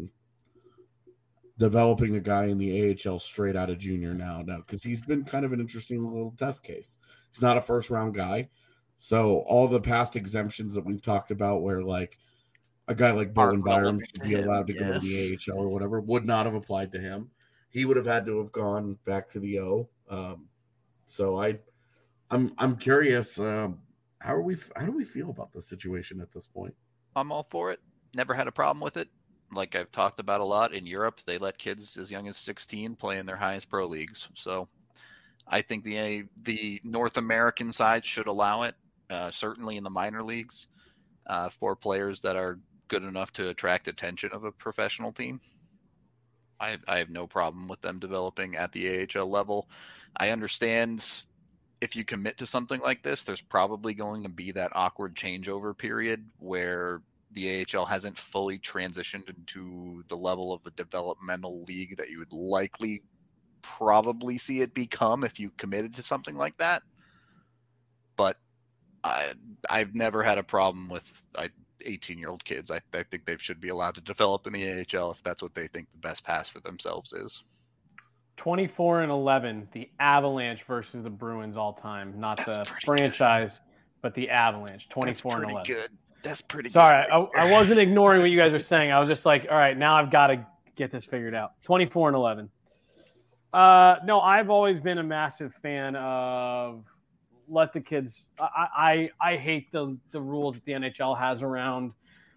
developing a guy in the A H L straight out of junior now? Now, because he's been kind of an interesting little test case. He's not a first round guy, so all the past exemptions that we've talked about, where like a guy like Bowen Byram should be allowed to yeah. go to the A H L or whatever, would not have applied to him. He would have had to have gone back to the O. Um, so I, I'm I'm curious. Um, how are we? How do we feel about the situation at this point? I'm all for it. Never had a problem with it. Like I've talked about a lot in Europe, they let kids as young as sixteen play in their highest pro leagues. So I think the the North American side should allow it. Uh, certainly in the minor leagues uh, for players that are good enough to attract attention of a professional team. I, I have no problem with them developing at the A H L level. I understand if you commit to something like this, there's probably going to be that awkward changeover period where the A H L hasn't fully transitioned into the level of a developmental league that you would likely probably see it become if you committed to something like that. But I, I've never had a problem with eighteen-year-old kids. I, I think they should be allowed to develop in the A H L if that's what they think the best pass for themselves is. twenty-four and eleven, the Avalanche versus the Bruins all time, not that's the franchise, good. But the Avalanche, twenty-four that's and eleven. Good. That's pretty Sorry, good. I, I wasn't ignoring what you guys were saying. I was just like, all right, now I've got to get this figured out. twenty-four and eleven. Uh, no, I've always been a massive fan of let the kids. I I, I hate the the rules that the N H L has around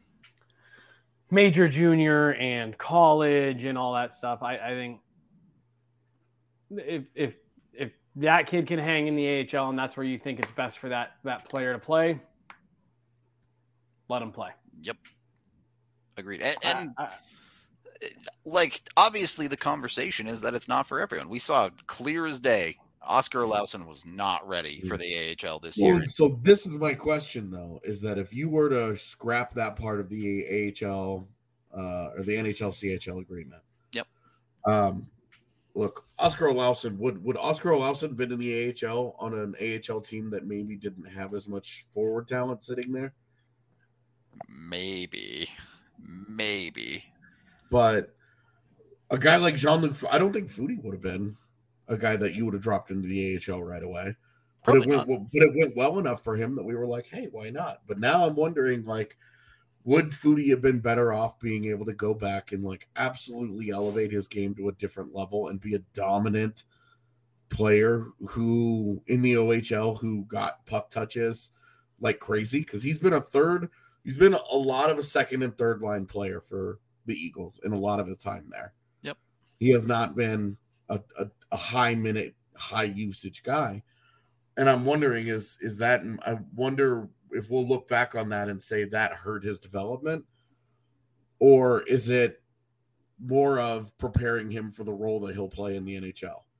major, junior, and college and all that stuff. I, I think if if if that kid can hang in the A H L and that's where you think it's best for that that player to play, let him play. Yep. Agreed. And, and I, I, like, obviously the conversation is that it's not for everyone. We saw clear as day, Oscar Olausson was not ready for the A H L this well, year. So this is my question, though, is that if you were to scrap that part of the A H L uh, or the N H L C H L agreement. Yep. Um, look, Oscar Olausson, would, would Oscar Olausson been in the A H L on an A H L team that maybe didn't have as much forward talent sitting there? Maybe, maybe. but a guy like Jean-Luc, I don't think Foudy would have been a guy that you would have dropped into the A H L right away. But it went, but it went well enough for him that we were like, hey, why not? But now I'm wondering, like, would Foudy have been better off being able to go back and like absolutely elevate his game to a different level and be a dominant player who in the O H L who got puck touches like crazy? Because he's been a third, he's been a lot of a second and third line player for the Eagles in a lot of his time there. Yep. He has not been a, a, a high minute, high usage guy. And I'm wondering, is is that, I wonder if we'll look back on that and say that hurt his development, or is it more of preparing him for the role that he'll play in the N H L?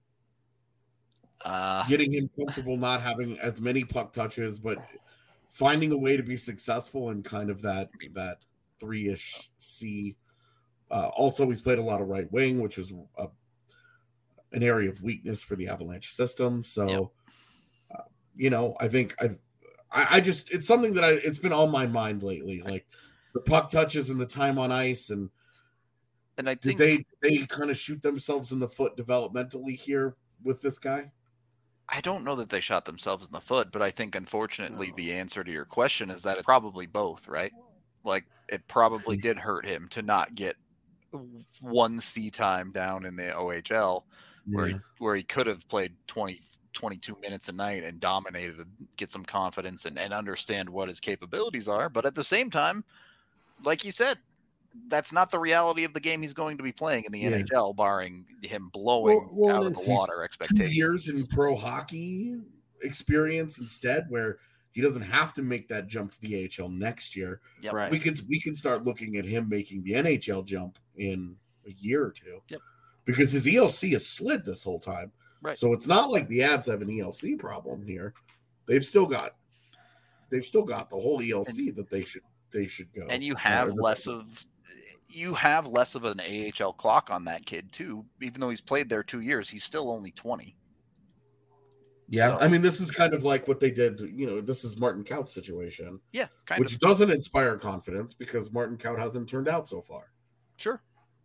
Uh, Getting him comfortable not having as many puck touches, but finding a way to be successful in kind of that that three-ish C. Uh, also, he's played a lot of right wing, which is a, an area of weakness for the Avalanche system. So, yep. uh, you know, I think I've I, I just, it's something that I, it's been on my mind lately, like the puck touches and the time on ice. And, and I think did they, they kind of shoot themselves in the foot developmentally here with this guy? I don't know that they shot themselves in the foot, but I think unfortunately the answer to your question is that it's probably both, right? Like it probably did hurt him to not get one C time down in the O H L where, yeah. he, where he could have played twenty, twenty-two minutes a night and dominated, get some confidence and, and understand what his capabilities are. But at the same time, like you said, that's not the reality of the game he's going to be playing in the yeah. N H L, barring him blowing well, well, out of the water expectations. Two years in pro hockey experience instead, where he doesn't have to make that jump to the A H L next year. Yep. Right. We could we can start looking at him making the N H L jump in a year or two. Yep. Because his E L C has slid this whole time. Right. So it's not like the Avs have an E L C problem here. They've still got they've still got the whole E L C and, that they should they should go. And you have less of you have less of an A H L clock on that kid too. Even though he's played there two years, he's still only twenty. Yeah, so, I mean, this is kind of like what they did. You know, this is Martin Kaut's situation. Yeah, kind which of. doesn't inspire confidence because Martin Kaut hasn't turned out so far. Sure.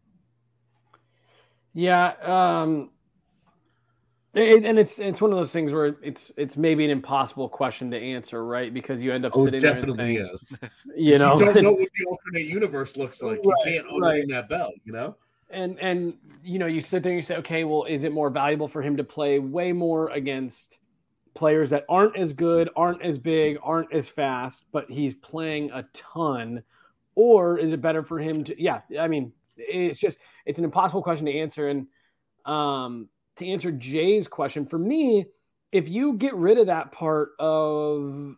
Yeah, um, it, and it's it's one of those things where it's it's maybe an impossible question to answer, right? Because you end up oh, sitting definitely there and is. You know, you don't know what the alternate universe looks like. Right, you can't unring right. that bell. You know. And and you know, you sit there and you say, okay, well, is it more valuable for him to play way more against players that aren't as good, aren't as big, aren't as fast, but he's playing a ton, or is it better for him to? Yeah, I mean, it's just it's an impossible question to answer. And um, to answer Jay's question, for me, if you get rid of that part of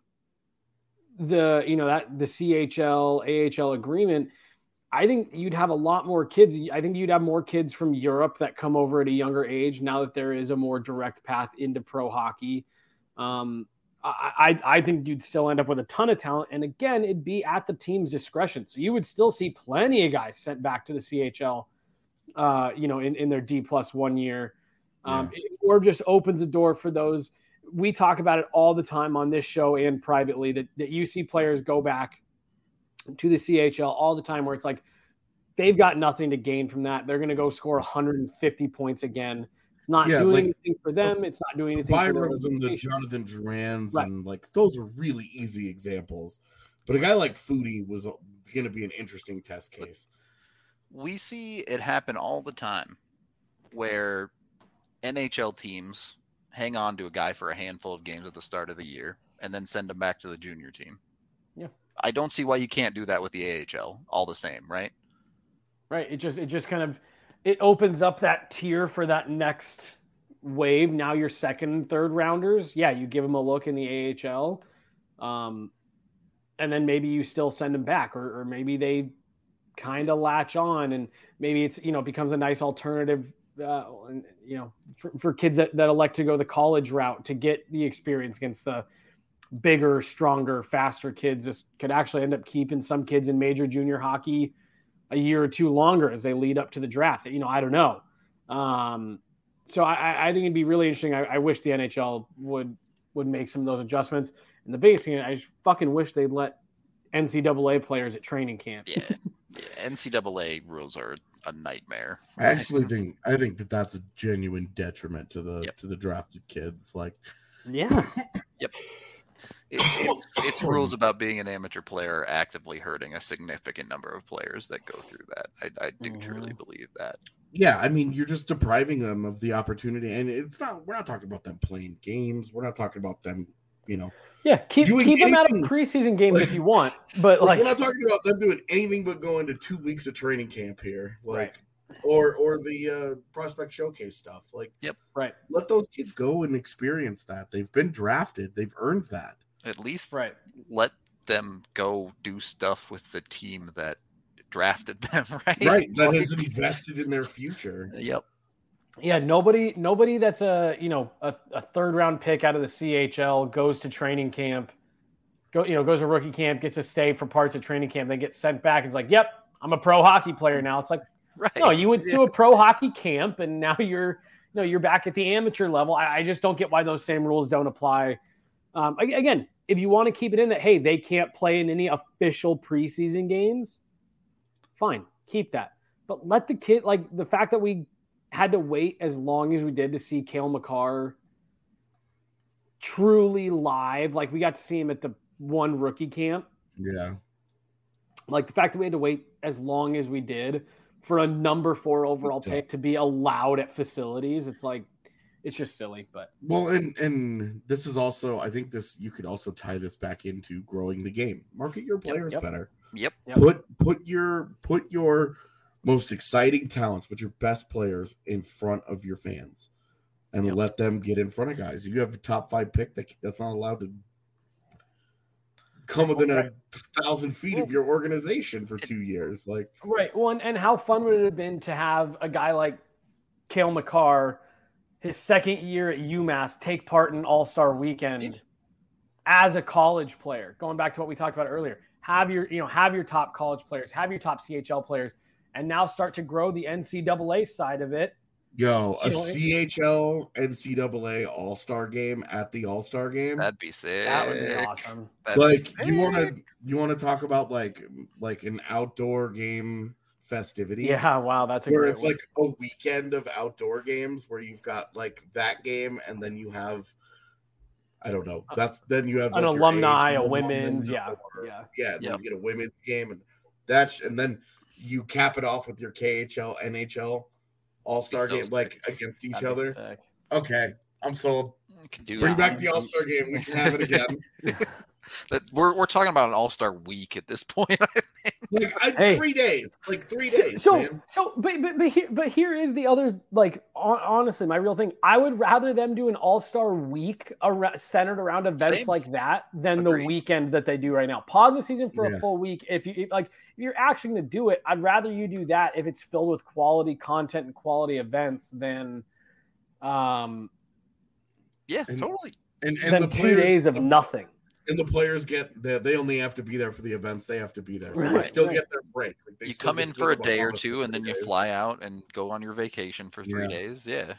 the you know that the C H L A H L agreement, I think you'd have a lot more kids. I think you'd have more kids from Europe that come over at a younger age now that there is a more direct path into pro hockey. Um, I, I think you'd still end up with a ton of talent. And again, it'd be at the team's discretion. So you would still see plenty of guys sent back to the C H L, uh, you know, in, in their D plus one year. Um, yeah. Or just opens a door for those. We talk about it all the time on this show and privately that, that you see players go back to the C H L all the time where it's like they've got nothing to gain from that. They're going to go score one hundred fifty points again. It's not yeah, doing like, anything for them. It's not doing anything Byram's for and the Jonathan Durans right. and like those are really easy examples. But a guy like Foudy was going to be an interesting test case. We see it happen all the time where N H L teams hang on to a guy for a handful of games at the start of the year and then send him back to the junior team. Yeah. I don't see why you can't do that with the A H L all the same, right? Right. It just, it just kind of, it opens up that tier for that next wave. Now your second and third rounders. Yeah. You give them a look in the A H L. Um, and then maybe you still send them back or, or maybe they kind of latch on and maybe it's, you know, becomes a nice alternative, uh, and, you know, for, for kids that, that elect to go the college route to get the experience against the bigger, stronger, faster kids. This could actually end up keeping some kids in major junior hockey a year or two longer as they lead up to the draft. You know, I don't know. Um, so I, I think it'd be really interesting. I, I wish the N H L would, would make some of those adjustments. And the biggest thing, I just fucking wish they'd let N C double A players at training camp. Yeah. Yeah, N C double A rules are a nightmare. I actually think I think that that's a genuine detriment to the Yep. to the drafted kids. Like, Yeah. Yep. It, it's, it's rules about being an amateur player actively hurting a significant number of players that go through that. I, I do Mhm. truly believe that. yeah, I mean, you're just depriving them of the opportunity, and it's not. We're not talking about them playing games. We're not talking about them, you know. Yeah, keep Doing keep them out of anything- preseason games like- if you want, but like, We're not talking about them doing anything but going to two weeks of training camp here, like, Right. or or the uh, prospect showcase stuff. Like, right, let those kids go and experience that. They've been drafted. They've earned that. At least right. let them go do stuff with the team that drafted them, right? Right. That Like- has invested in their future. Yep. Yeah, nobody nobody that's a you know a, a third round pick out of the C H L goes to training camp, go you know goes to rookie camp, gets a stay for parts of training camp, then gets sent back and it's like, yep, I'm a pro hockey player now. It's like, Right. no, you went to a pro hockey camp and now you're no, you're back at the amateur level. I, I just don't get why those same rules don't apply. Um, a- again, if you want to keep it in that, hey, they can't play in any official preseason games, fine, keep that. But let the kid, like the fact that we had to wait as long as we did to see Cale Makar truly live, like we got to see him at the one rookie camp. Yeah. Like the fact that we had to wait as long as we did for a number four overall It's pick to be allowed at facilities, it's like, it's just silly. But Well, and and this is also, I think this you could also tie this back into growing the game. Market your players yep. better. Yep. Yep. Put put your put your most exciting talents, put your best players in front of your fans, and Yep. let them get in front of guys. You have a top five pick that that's not allowed to come within Okay. a thousand feet of your organization for two years. Like, right. Well, and, and how fun would it have been to have a guy like Cale Makar, his second year at UMass, take part in All-Star Weekend as a college player? Going back to what we talked about earlier, have your you know have your top college players, have your top C H L players, and now start to grow the N C double A side of it. yo, a You know, it- C H L N C double A All Star game at the All Star game. That'd be sick. That would be awesome. That'd be Like, you want to sick. you want to talk about like like an outdoor game festivity? Yeah, wow, that's a where great it's one. like a weekend of outdoor games where you've got like that game, and then you have, I don't know, that's then you have an like your alumni, A H L a women's, yeah, or- yeah. yeah, and then Yep. you get a women's game, and that's and then you cap it off with your K H L N H L All Star Be so game like sick. against each That'd be other. sick. Okay, I'm sold. We could do Bring it. back the All Star game. We can have it again. That we're we're talking about an All Star week at this point. I think. Like I, Hey. three days, like three So, days, so, man. so, but, but, but here, but here is the other, like, hon- honestly, my real thing. I would rather them do an All Star week ar- centered around events Same. like that than Agreed. the weekend that they do right now. Pause the season for Yeah. a full week. If you if, like, if you're actually going to do it, I'd rather you do that if it's filled with quality content and quality events than, um, Yeah, And- totally. And and than the two players, days of nothing. and the players get the, they only have to be there for the events they have to be there, so they Right, still right. get their break. Like, they You still come get in to for a go to day or Bahamas for two, and then three you days. fly out and go on your vacation for three Yeah. days. Yeah.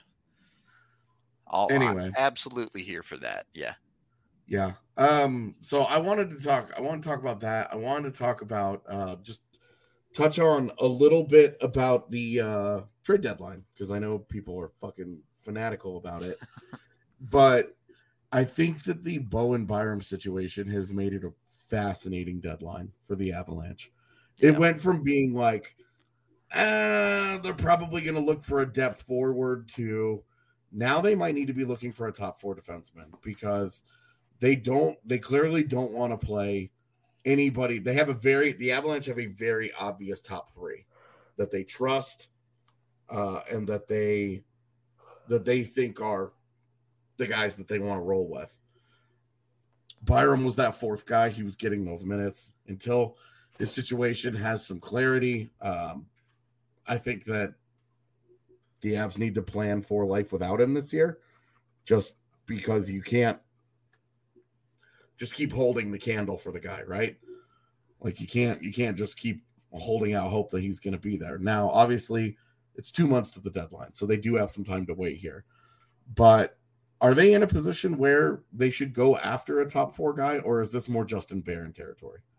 I'll, Anyway. I'm absolutely here for that. Yeah. Yeah. Um. So I wanted to talk. I want to talk about that. I wanted to talk about uh just touch on a little bit about the uh trade deadline, because I know people are fucking fanatical about it. But I think that the Bowen Byram situation has made it a fascinating deadline for the Avalanche. It Yeah. went from being like, uh, they're probably going to look for a depth forward to now they might need to be looking for a top four defenseman, because they don't, they clearly don't want to play anybody. They have a very, the Avalanche have a very obvious top three that they trust uh, and that they, that they think are the guys that they want to roll with. Byram was that fourth guy. He was getting those minutes until his situation has some clarity. Um, I think that the Avs need to plan for life without him this year, just because you can't just keep holding the candle for the guy, right? Like you can't, you can't just keep holding out hope that he's going to be there. Now, obviously, it's two months to the deadline, so they do have some time to wait here. But are they in a position where they should go after a top four guy, or is this more Justin Barron territory?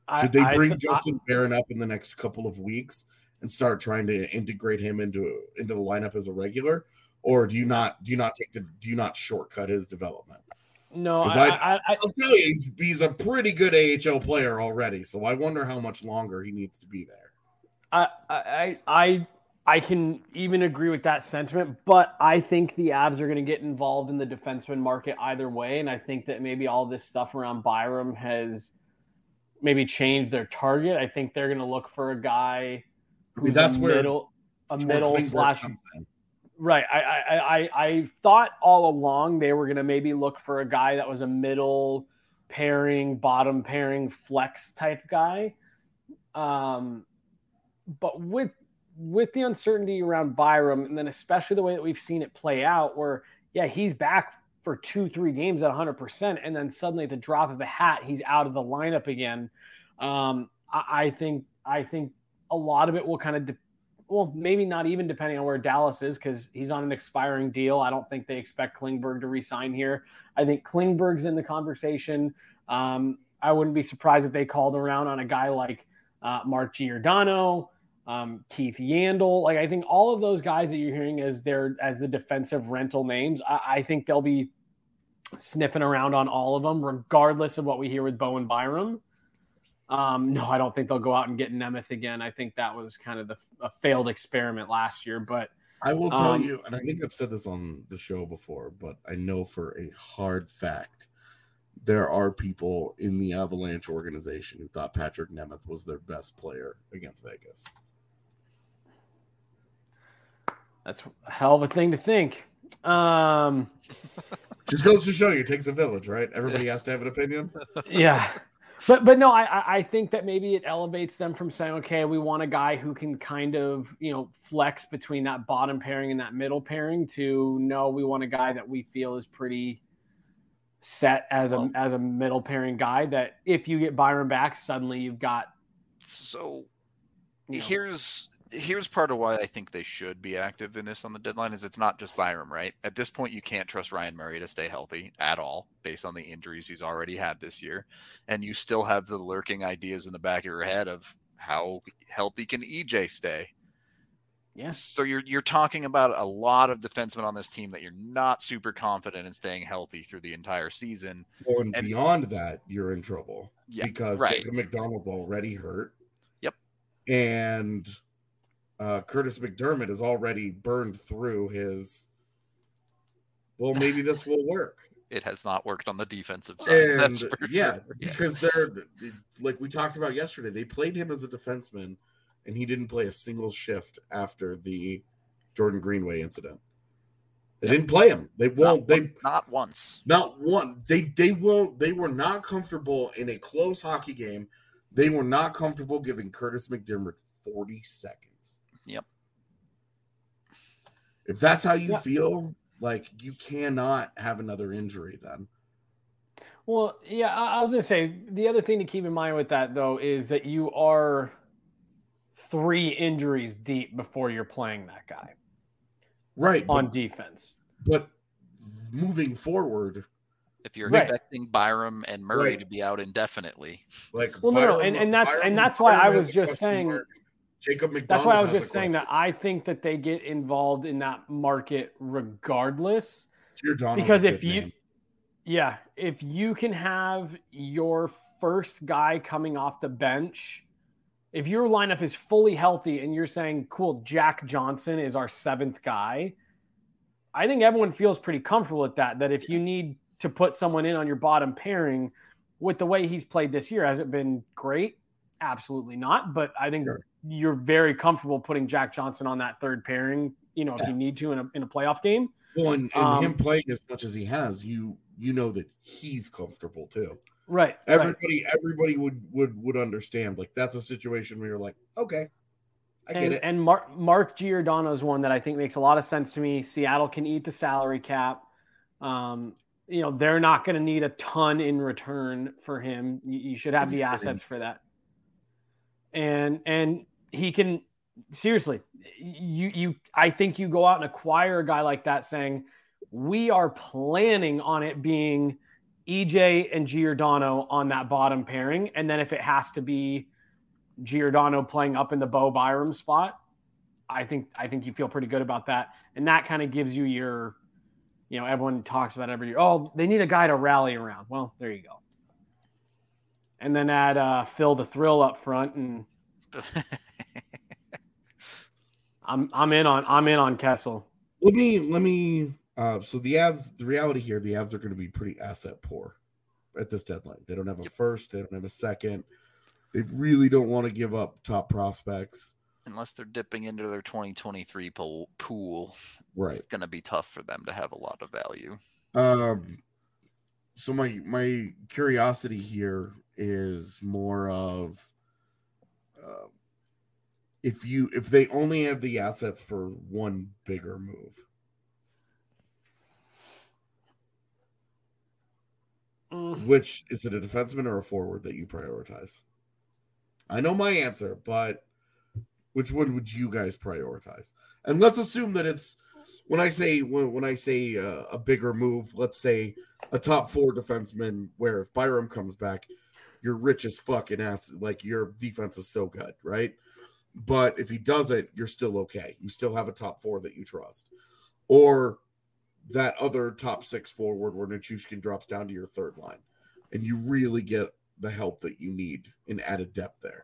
Should they I, bring I, Justin Barron up in the next couple of weeks and start trying to integrate him into into the lineup as a regular, or do you not do you not take the do you not shortcut his development? No, Because I, I, I, I, I'll tell you, he's, he's a pretty good A H L player already. So I wonder how much longer he needs to be there. I, I, I, I can even agree with that sentiment, but I think the Avs are going to get involved in the defenseman market either way, and I think that maybe all this stuff around Byram has maybe changed their target. I think they're going to look for a guy who's I mean, that's a where middle, a middle slash. Right. I, I, I, I thought all along they were going to maybe look for a guy that was a middle pairing, bottom pairing flex type guy. Um, but with, with the uncertainty around Byram, and then especially the way that we've seen it play out where, yeah, he's back for two, three games at one hundred percent. And then suddenly at the drop of a hat, he's out of the lineup again. Um, I, I think, I think a lot of it will kind of de- Well, maybe not even depending on where Dallas is because he's on an expiring deal. I don't think they expect Klingberg to re-sign here. I think Klingberg's in the conversation. Um, I wouldn't be surprised if they called around on a guy like uh, Mark Giordano, um, Keith Yandel. Like I think all of those guys that you're hearing as their as the defensive rental names, I, I think they'll be sniffing around on all of them, regardless of what we hear with Bowen Byram. Um, no, I don't think they'll go out and get Nemeth again. I think that was kind of the, a failed experiment last year. But I will tell um, you, and I think I've said this on the show before, but I know for a hard fact, there are people in the Avalanche organization who thought Patrick Nemeth was their best player against Vegas. That's a hell of a thing to think. Um, Just goes to show you, it takes a village, right? Everybody has to have an opinion. Yeah. But but no, I I think that maybe it elevates them from saying, okay, we want a guy who can kind of, you know, flex between that bottom pairing and that middle pairing to no, we want a guy that we feel is pretty set as a as a middle pairing guy that if you get Byron back, suddenly you've got. So you know, here's here's part of why I think they should be active in this on the deadline is it's not just Byram, right? At this point, you can't trust Ryan Murray to stay healthy at all based on the injuries he's already had this year. And you still have the lurking ideas in the back of your head of how healthy can E J stay? Yeah. So you're you're talking about a lot of defensemen on this team that you're not super confident in staying healthy through the entire season. Well, and, and beyond that, you're in trouble. Yeah, because right. Jacob McDonald's already hurt. Yep. And Uh, Curtis McDermott has already burned through his. Well, maybe this will work. It has not worked on the defensive side. And That's for yeah, sure. because they're like we talked about yesterday. They played him as a defenseman, and he didn't play a single shift after the Jordan Greenway incident. They yep. didn't play him. They won't. Not, they not once. Not one. They they won't. They were not comfortable in a close hockey game. They were not comfortable giving Curtis McDermott forty seconds. Yep. If that's how you yeah. feel, like you cannot have another injury then. Well, yeah, I, I was going to say the other thing to keep in mind with that, though, is that you are three injuries deep before you're playing that guy. Right. On but, defense. But moving forward. If you're right. expecting Byram and Murray right. to be out indefinitely. Like, well, Byram, no, no, and, and that's Byram, and that's why Byram I was just saying. Mark. Jacob McDonald. That's why I was just saying that I think that they get involved in that market regardless. Giordano's because a if good you, name. yeah, if you can have your first guy coming off the bench, if your lineup is fully healthy and you're saying, cool, Jack Johnson is our seventh guy, I think everyone feels pretty comfortable with that. That if you need to put someone in on your bottom pairing with the way he's played this year, has it been great? Absolutely not. But I think sure. you're very comfortable putting Jack Johnson on that third pairing, you know, if yeah. you need to in a, in a playoff game. Well, and, and um, him playing as much as he has, you you know that he's comfortable too. Right. Everybody right. everybody would, would would understand. Like that's a situation where you're like, okay, I and, get it. And Mark Mark Giordano is one that I think makes a lot of sense to me. Seattle can eat the salary cap. Um, you know, they're not going to need a ton in return for him. You, you should have the assets for that. And and he can seriously, you you I think you go out and acquire a guy like that saying, we are planning on it being E J and Giordano on that bottom pairing. And then if it has to be Giordano playing up in the Bo Byram spot, I think I think you feel pretty good about that. And that kind of gives you your, you know, everyone talks about every year, oh, they need a guy to rally around. Well, there you go. And then add uh, Phil the Thrill up front, and I'm I'm in on I'm in on Kessel. Let me let me uh so the Avs, the reality here, the Avs are going to be pretty asset poor at this deadline. They don't have a first, they don't have a second. They really don't want to give up top prospects. Unless they're dipping into their twenty twenty-three pool, pool right. It's going to be tough for them to have a lot of value. Um, so my my curiosity here is more of uh, if you if they only have the assets for one bigger move. Mm. Which is it, a defenseman or a forward that you prioritize? I know my answer, but which one would you guys prioritize? And let's assume that it's when I say when, when I say uh, a bigger move, let's say a top four defenseman, where if Byram comes back, you're rich as fucking ass. Like your defense is so good, right? But if he doesn't, you're still okay. You still have a top four that you trust. Or that other top six forward where Nichushkin drops down to your third line, and you really get the help that you need in added depth there.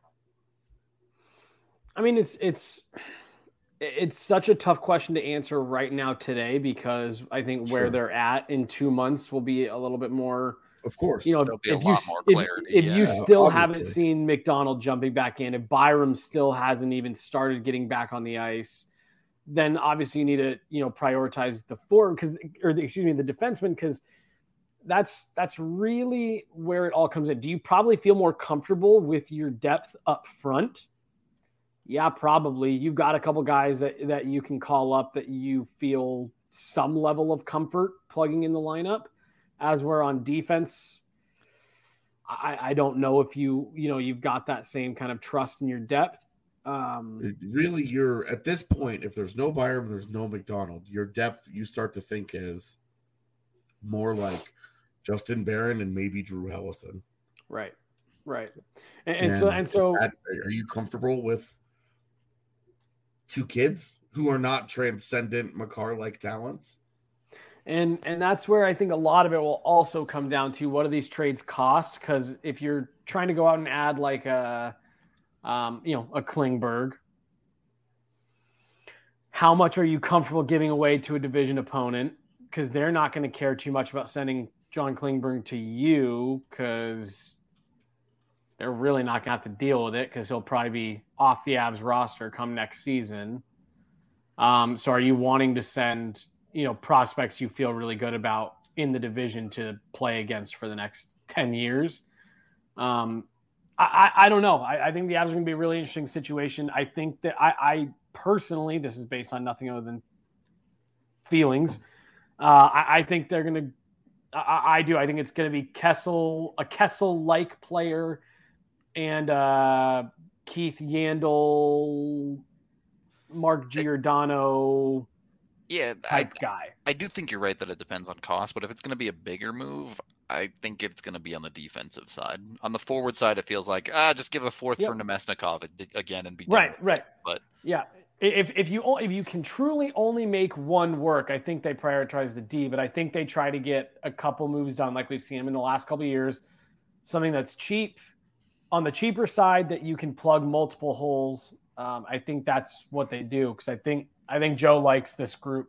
I mean, it's it's it's such a tough question to answer right now today, because I think where Sure. they're at in two months will be a little bit more. Of course, you know, There'll be a if you lot more clarity, if, if yeah. you still Obviously. haven't seen McDonald jumping back in, if Byram still hasn't even started getting back on the ice, then obviously you need to, you know, prioritize the forward because, or the, excuse me, the defenseman, because that's that's really where it all comes in. Do you probably feel more comfortable with your depth up front? Yeah, probably. You've got a couple guys that, that you can call up that you feel some level of comfort plugging in the lineup. As we're on defense, I, I don't know if you, you know, you've got that same kind of trust in your depth. Um, It really, you're at this point, if there's no Byram, there's no McDonald, your depth, you start to think is more like Justin Barron and maybe Drew Hellison. Right. Right. And, and, And so, and so, that, are you comfortable with two kids who are not transcendent Makar-like talents? And and that's where I think a lot of it will also come down to what do these trades cost? Because if you're trying to go out and add like a, um, you know, a Klingberg, how much are you comfortable giving away to a division opponent? Because they're not going to care too much about sending John Klingberg to you, because they're really not going to have to deal with it because he'll probably be off the Avs roster come next season. Um, so are you wanting to send, you know, prospects you feel really good about in the division to play against for the next ten years? Um, I, I, I don't know. I, I think the Avs are going to be a really interesting situation. I think that I, I personally, this is based on nothing other than feelings. Uh, I, I think they're going to, I, I do. I think it's going to be Kessel, a Kessel-like player, and uh, Keith Yandel, Mark Giordano, Yeah, I, type guy. I do think you're right that it depends on cost, but if it's going to be a bigger move, I think it's going to be on the defensive side. On the forward side, it feels like, ah, just give a fourth Yep. for Nemesnikov again and be done Right, with it. right. But Yeah, if if you o- if you can truly only make one work, I think they prioritize the D. But I think they try to get a couple moves done, like we've seen them in the last couple of years. Something that's cheap, on the cheaper side, that you can plug multiple holes. Um, I think that's what they do, because I think I think Joe likes this group.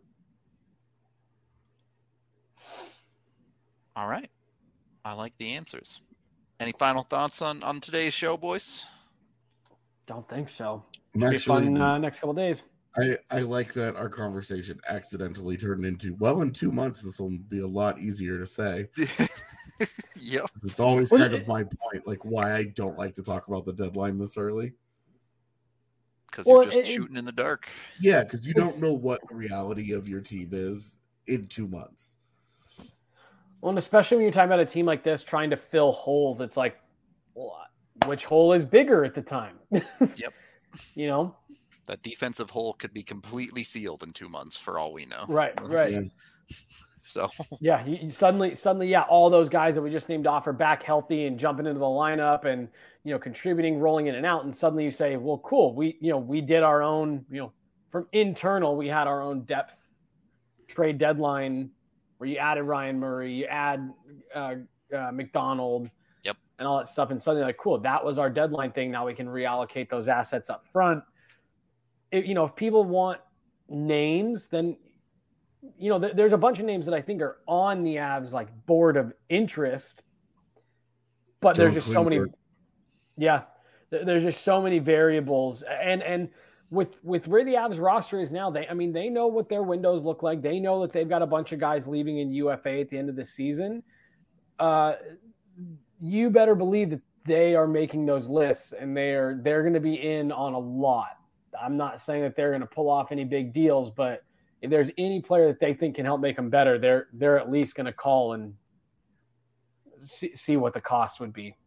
all right, I like the answers. Any final thoughts on, on today's show, boys? Don't think so. I'm Be actually, fun uh, next couple of days. I, I like that our conversation accidentally turned into, well, in two months, this will be a lot easier to say. Yep. It's always Well, kind it- of my point, like why I don't like to talk about the deadline this early. Because Well, you're just it- it- shooting in the dark. Yeah, because you It's- don't know what the reality of your team is in two months. Well, and especially when you're talking about a team like this trying to fill holes, it's like, well, which hole is bigger at the time? Yep. You know? That defensive hole could be completely sealed in two months for all we know. Right, right. Yeah. So yeah, you, you suddenly, suddenly, yeah, all those guys that we just named off are back healthy and jumping into the lineup and, you know, contributing, rolling in and out. And suddenly you say, well, cool. We, you know, we did our own, you know, from internal, we had our own depth trade deadline where you added Ryan Murray, you add uh, uh, McDonald, yep, and all that stuff. And suddenly like, cool, that was our deadline thing. Now we can reallocate those assets up front. It, you know, if people want names, then, you know, th- there's a bunch of names that I think are on the Avs like board of interest, but Joe there's just so many, Klingberg. yeah, th- there's just so many variables. And, and with, with where the Avs roster is now, they, I mean, they know what their windows look like. They know that they've got a bunch of guys leaving in U F A at the end of the season. Uh, you better believe that they are making those lists and they are, they're going to be in on a lot. I'm not saying that they're going to pull off any big deals, but if there's any player that they think can help make them better, they're they're at least going to call and see, see what the cost would be.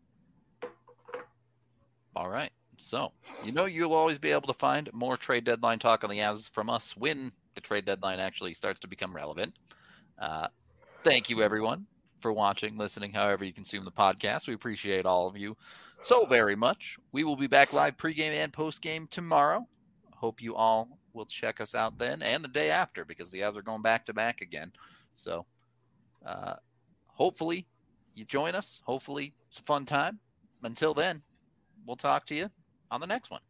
All right. So, you know, you'll always be able to find more trade deadline talk on the Avs from us when the trade deadline actually starts to become relevant. Uh, thank you, everyone, for watching, listening, however you consume the podcast. We appreciate all of you so very much. We will be back live pregame and postgame tomorrow. Hope you all will check us out then and the day after because the Avs are going back to back again. So uh, hopefully you join us. Hopefully it's a fun time. Until then, we'll talk to you on the next one.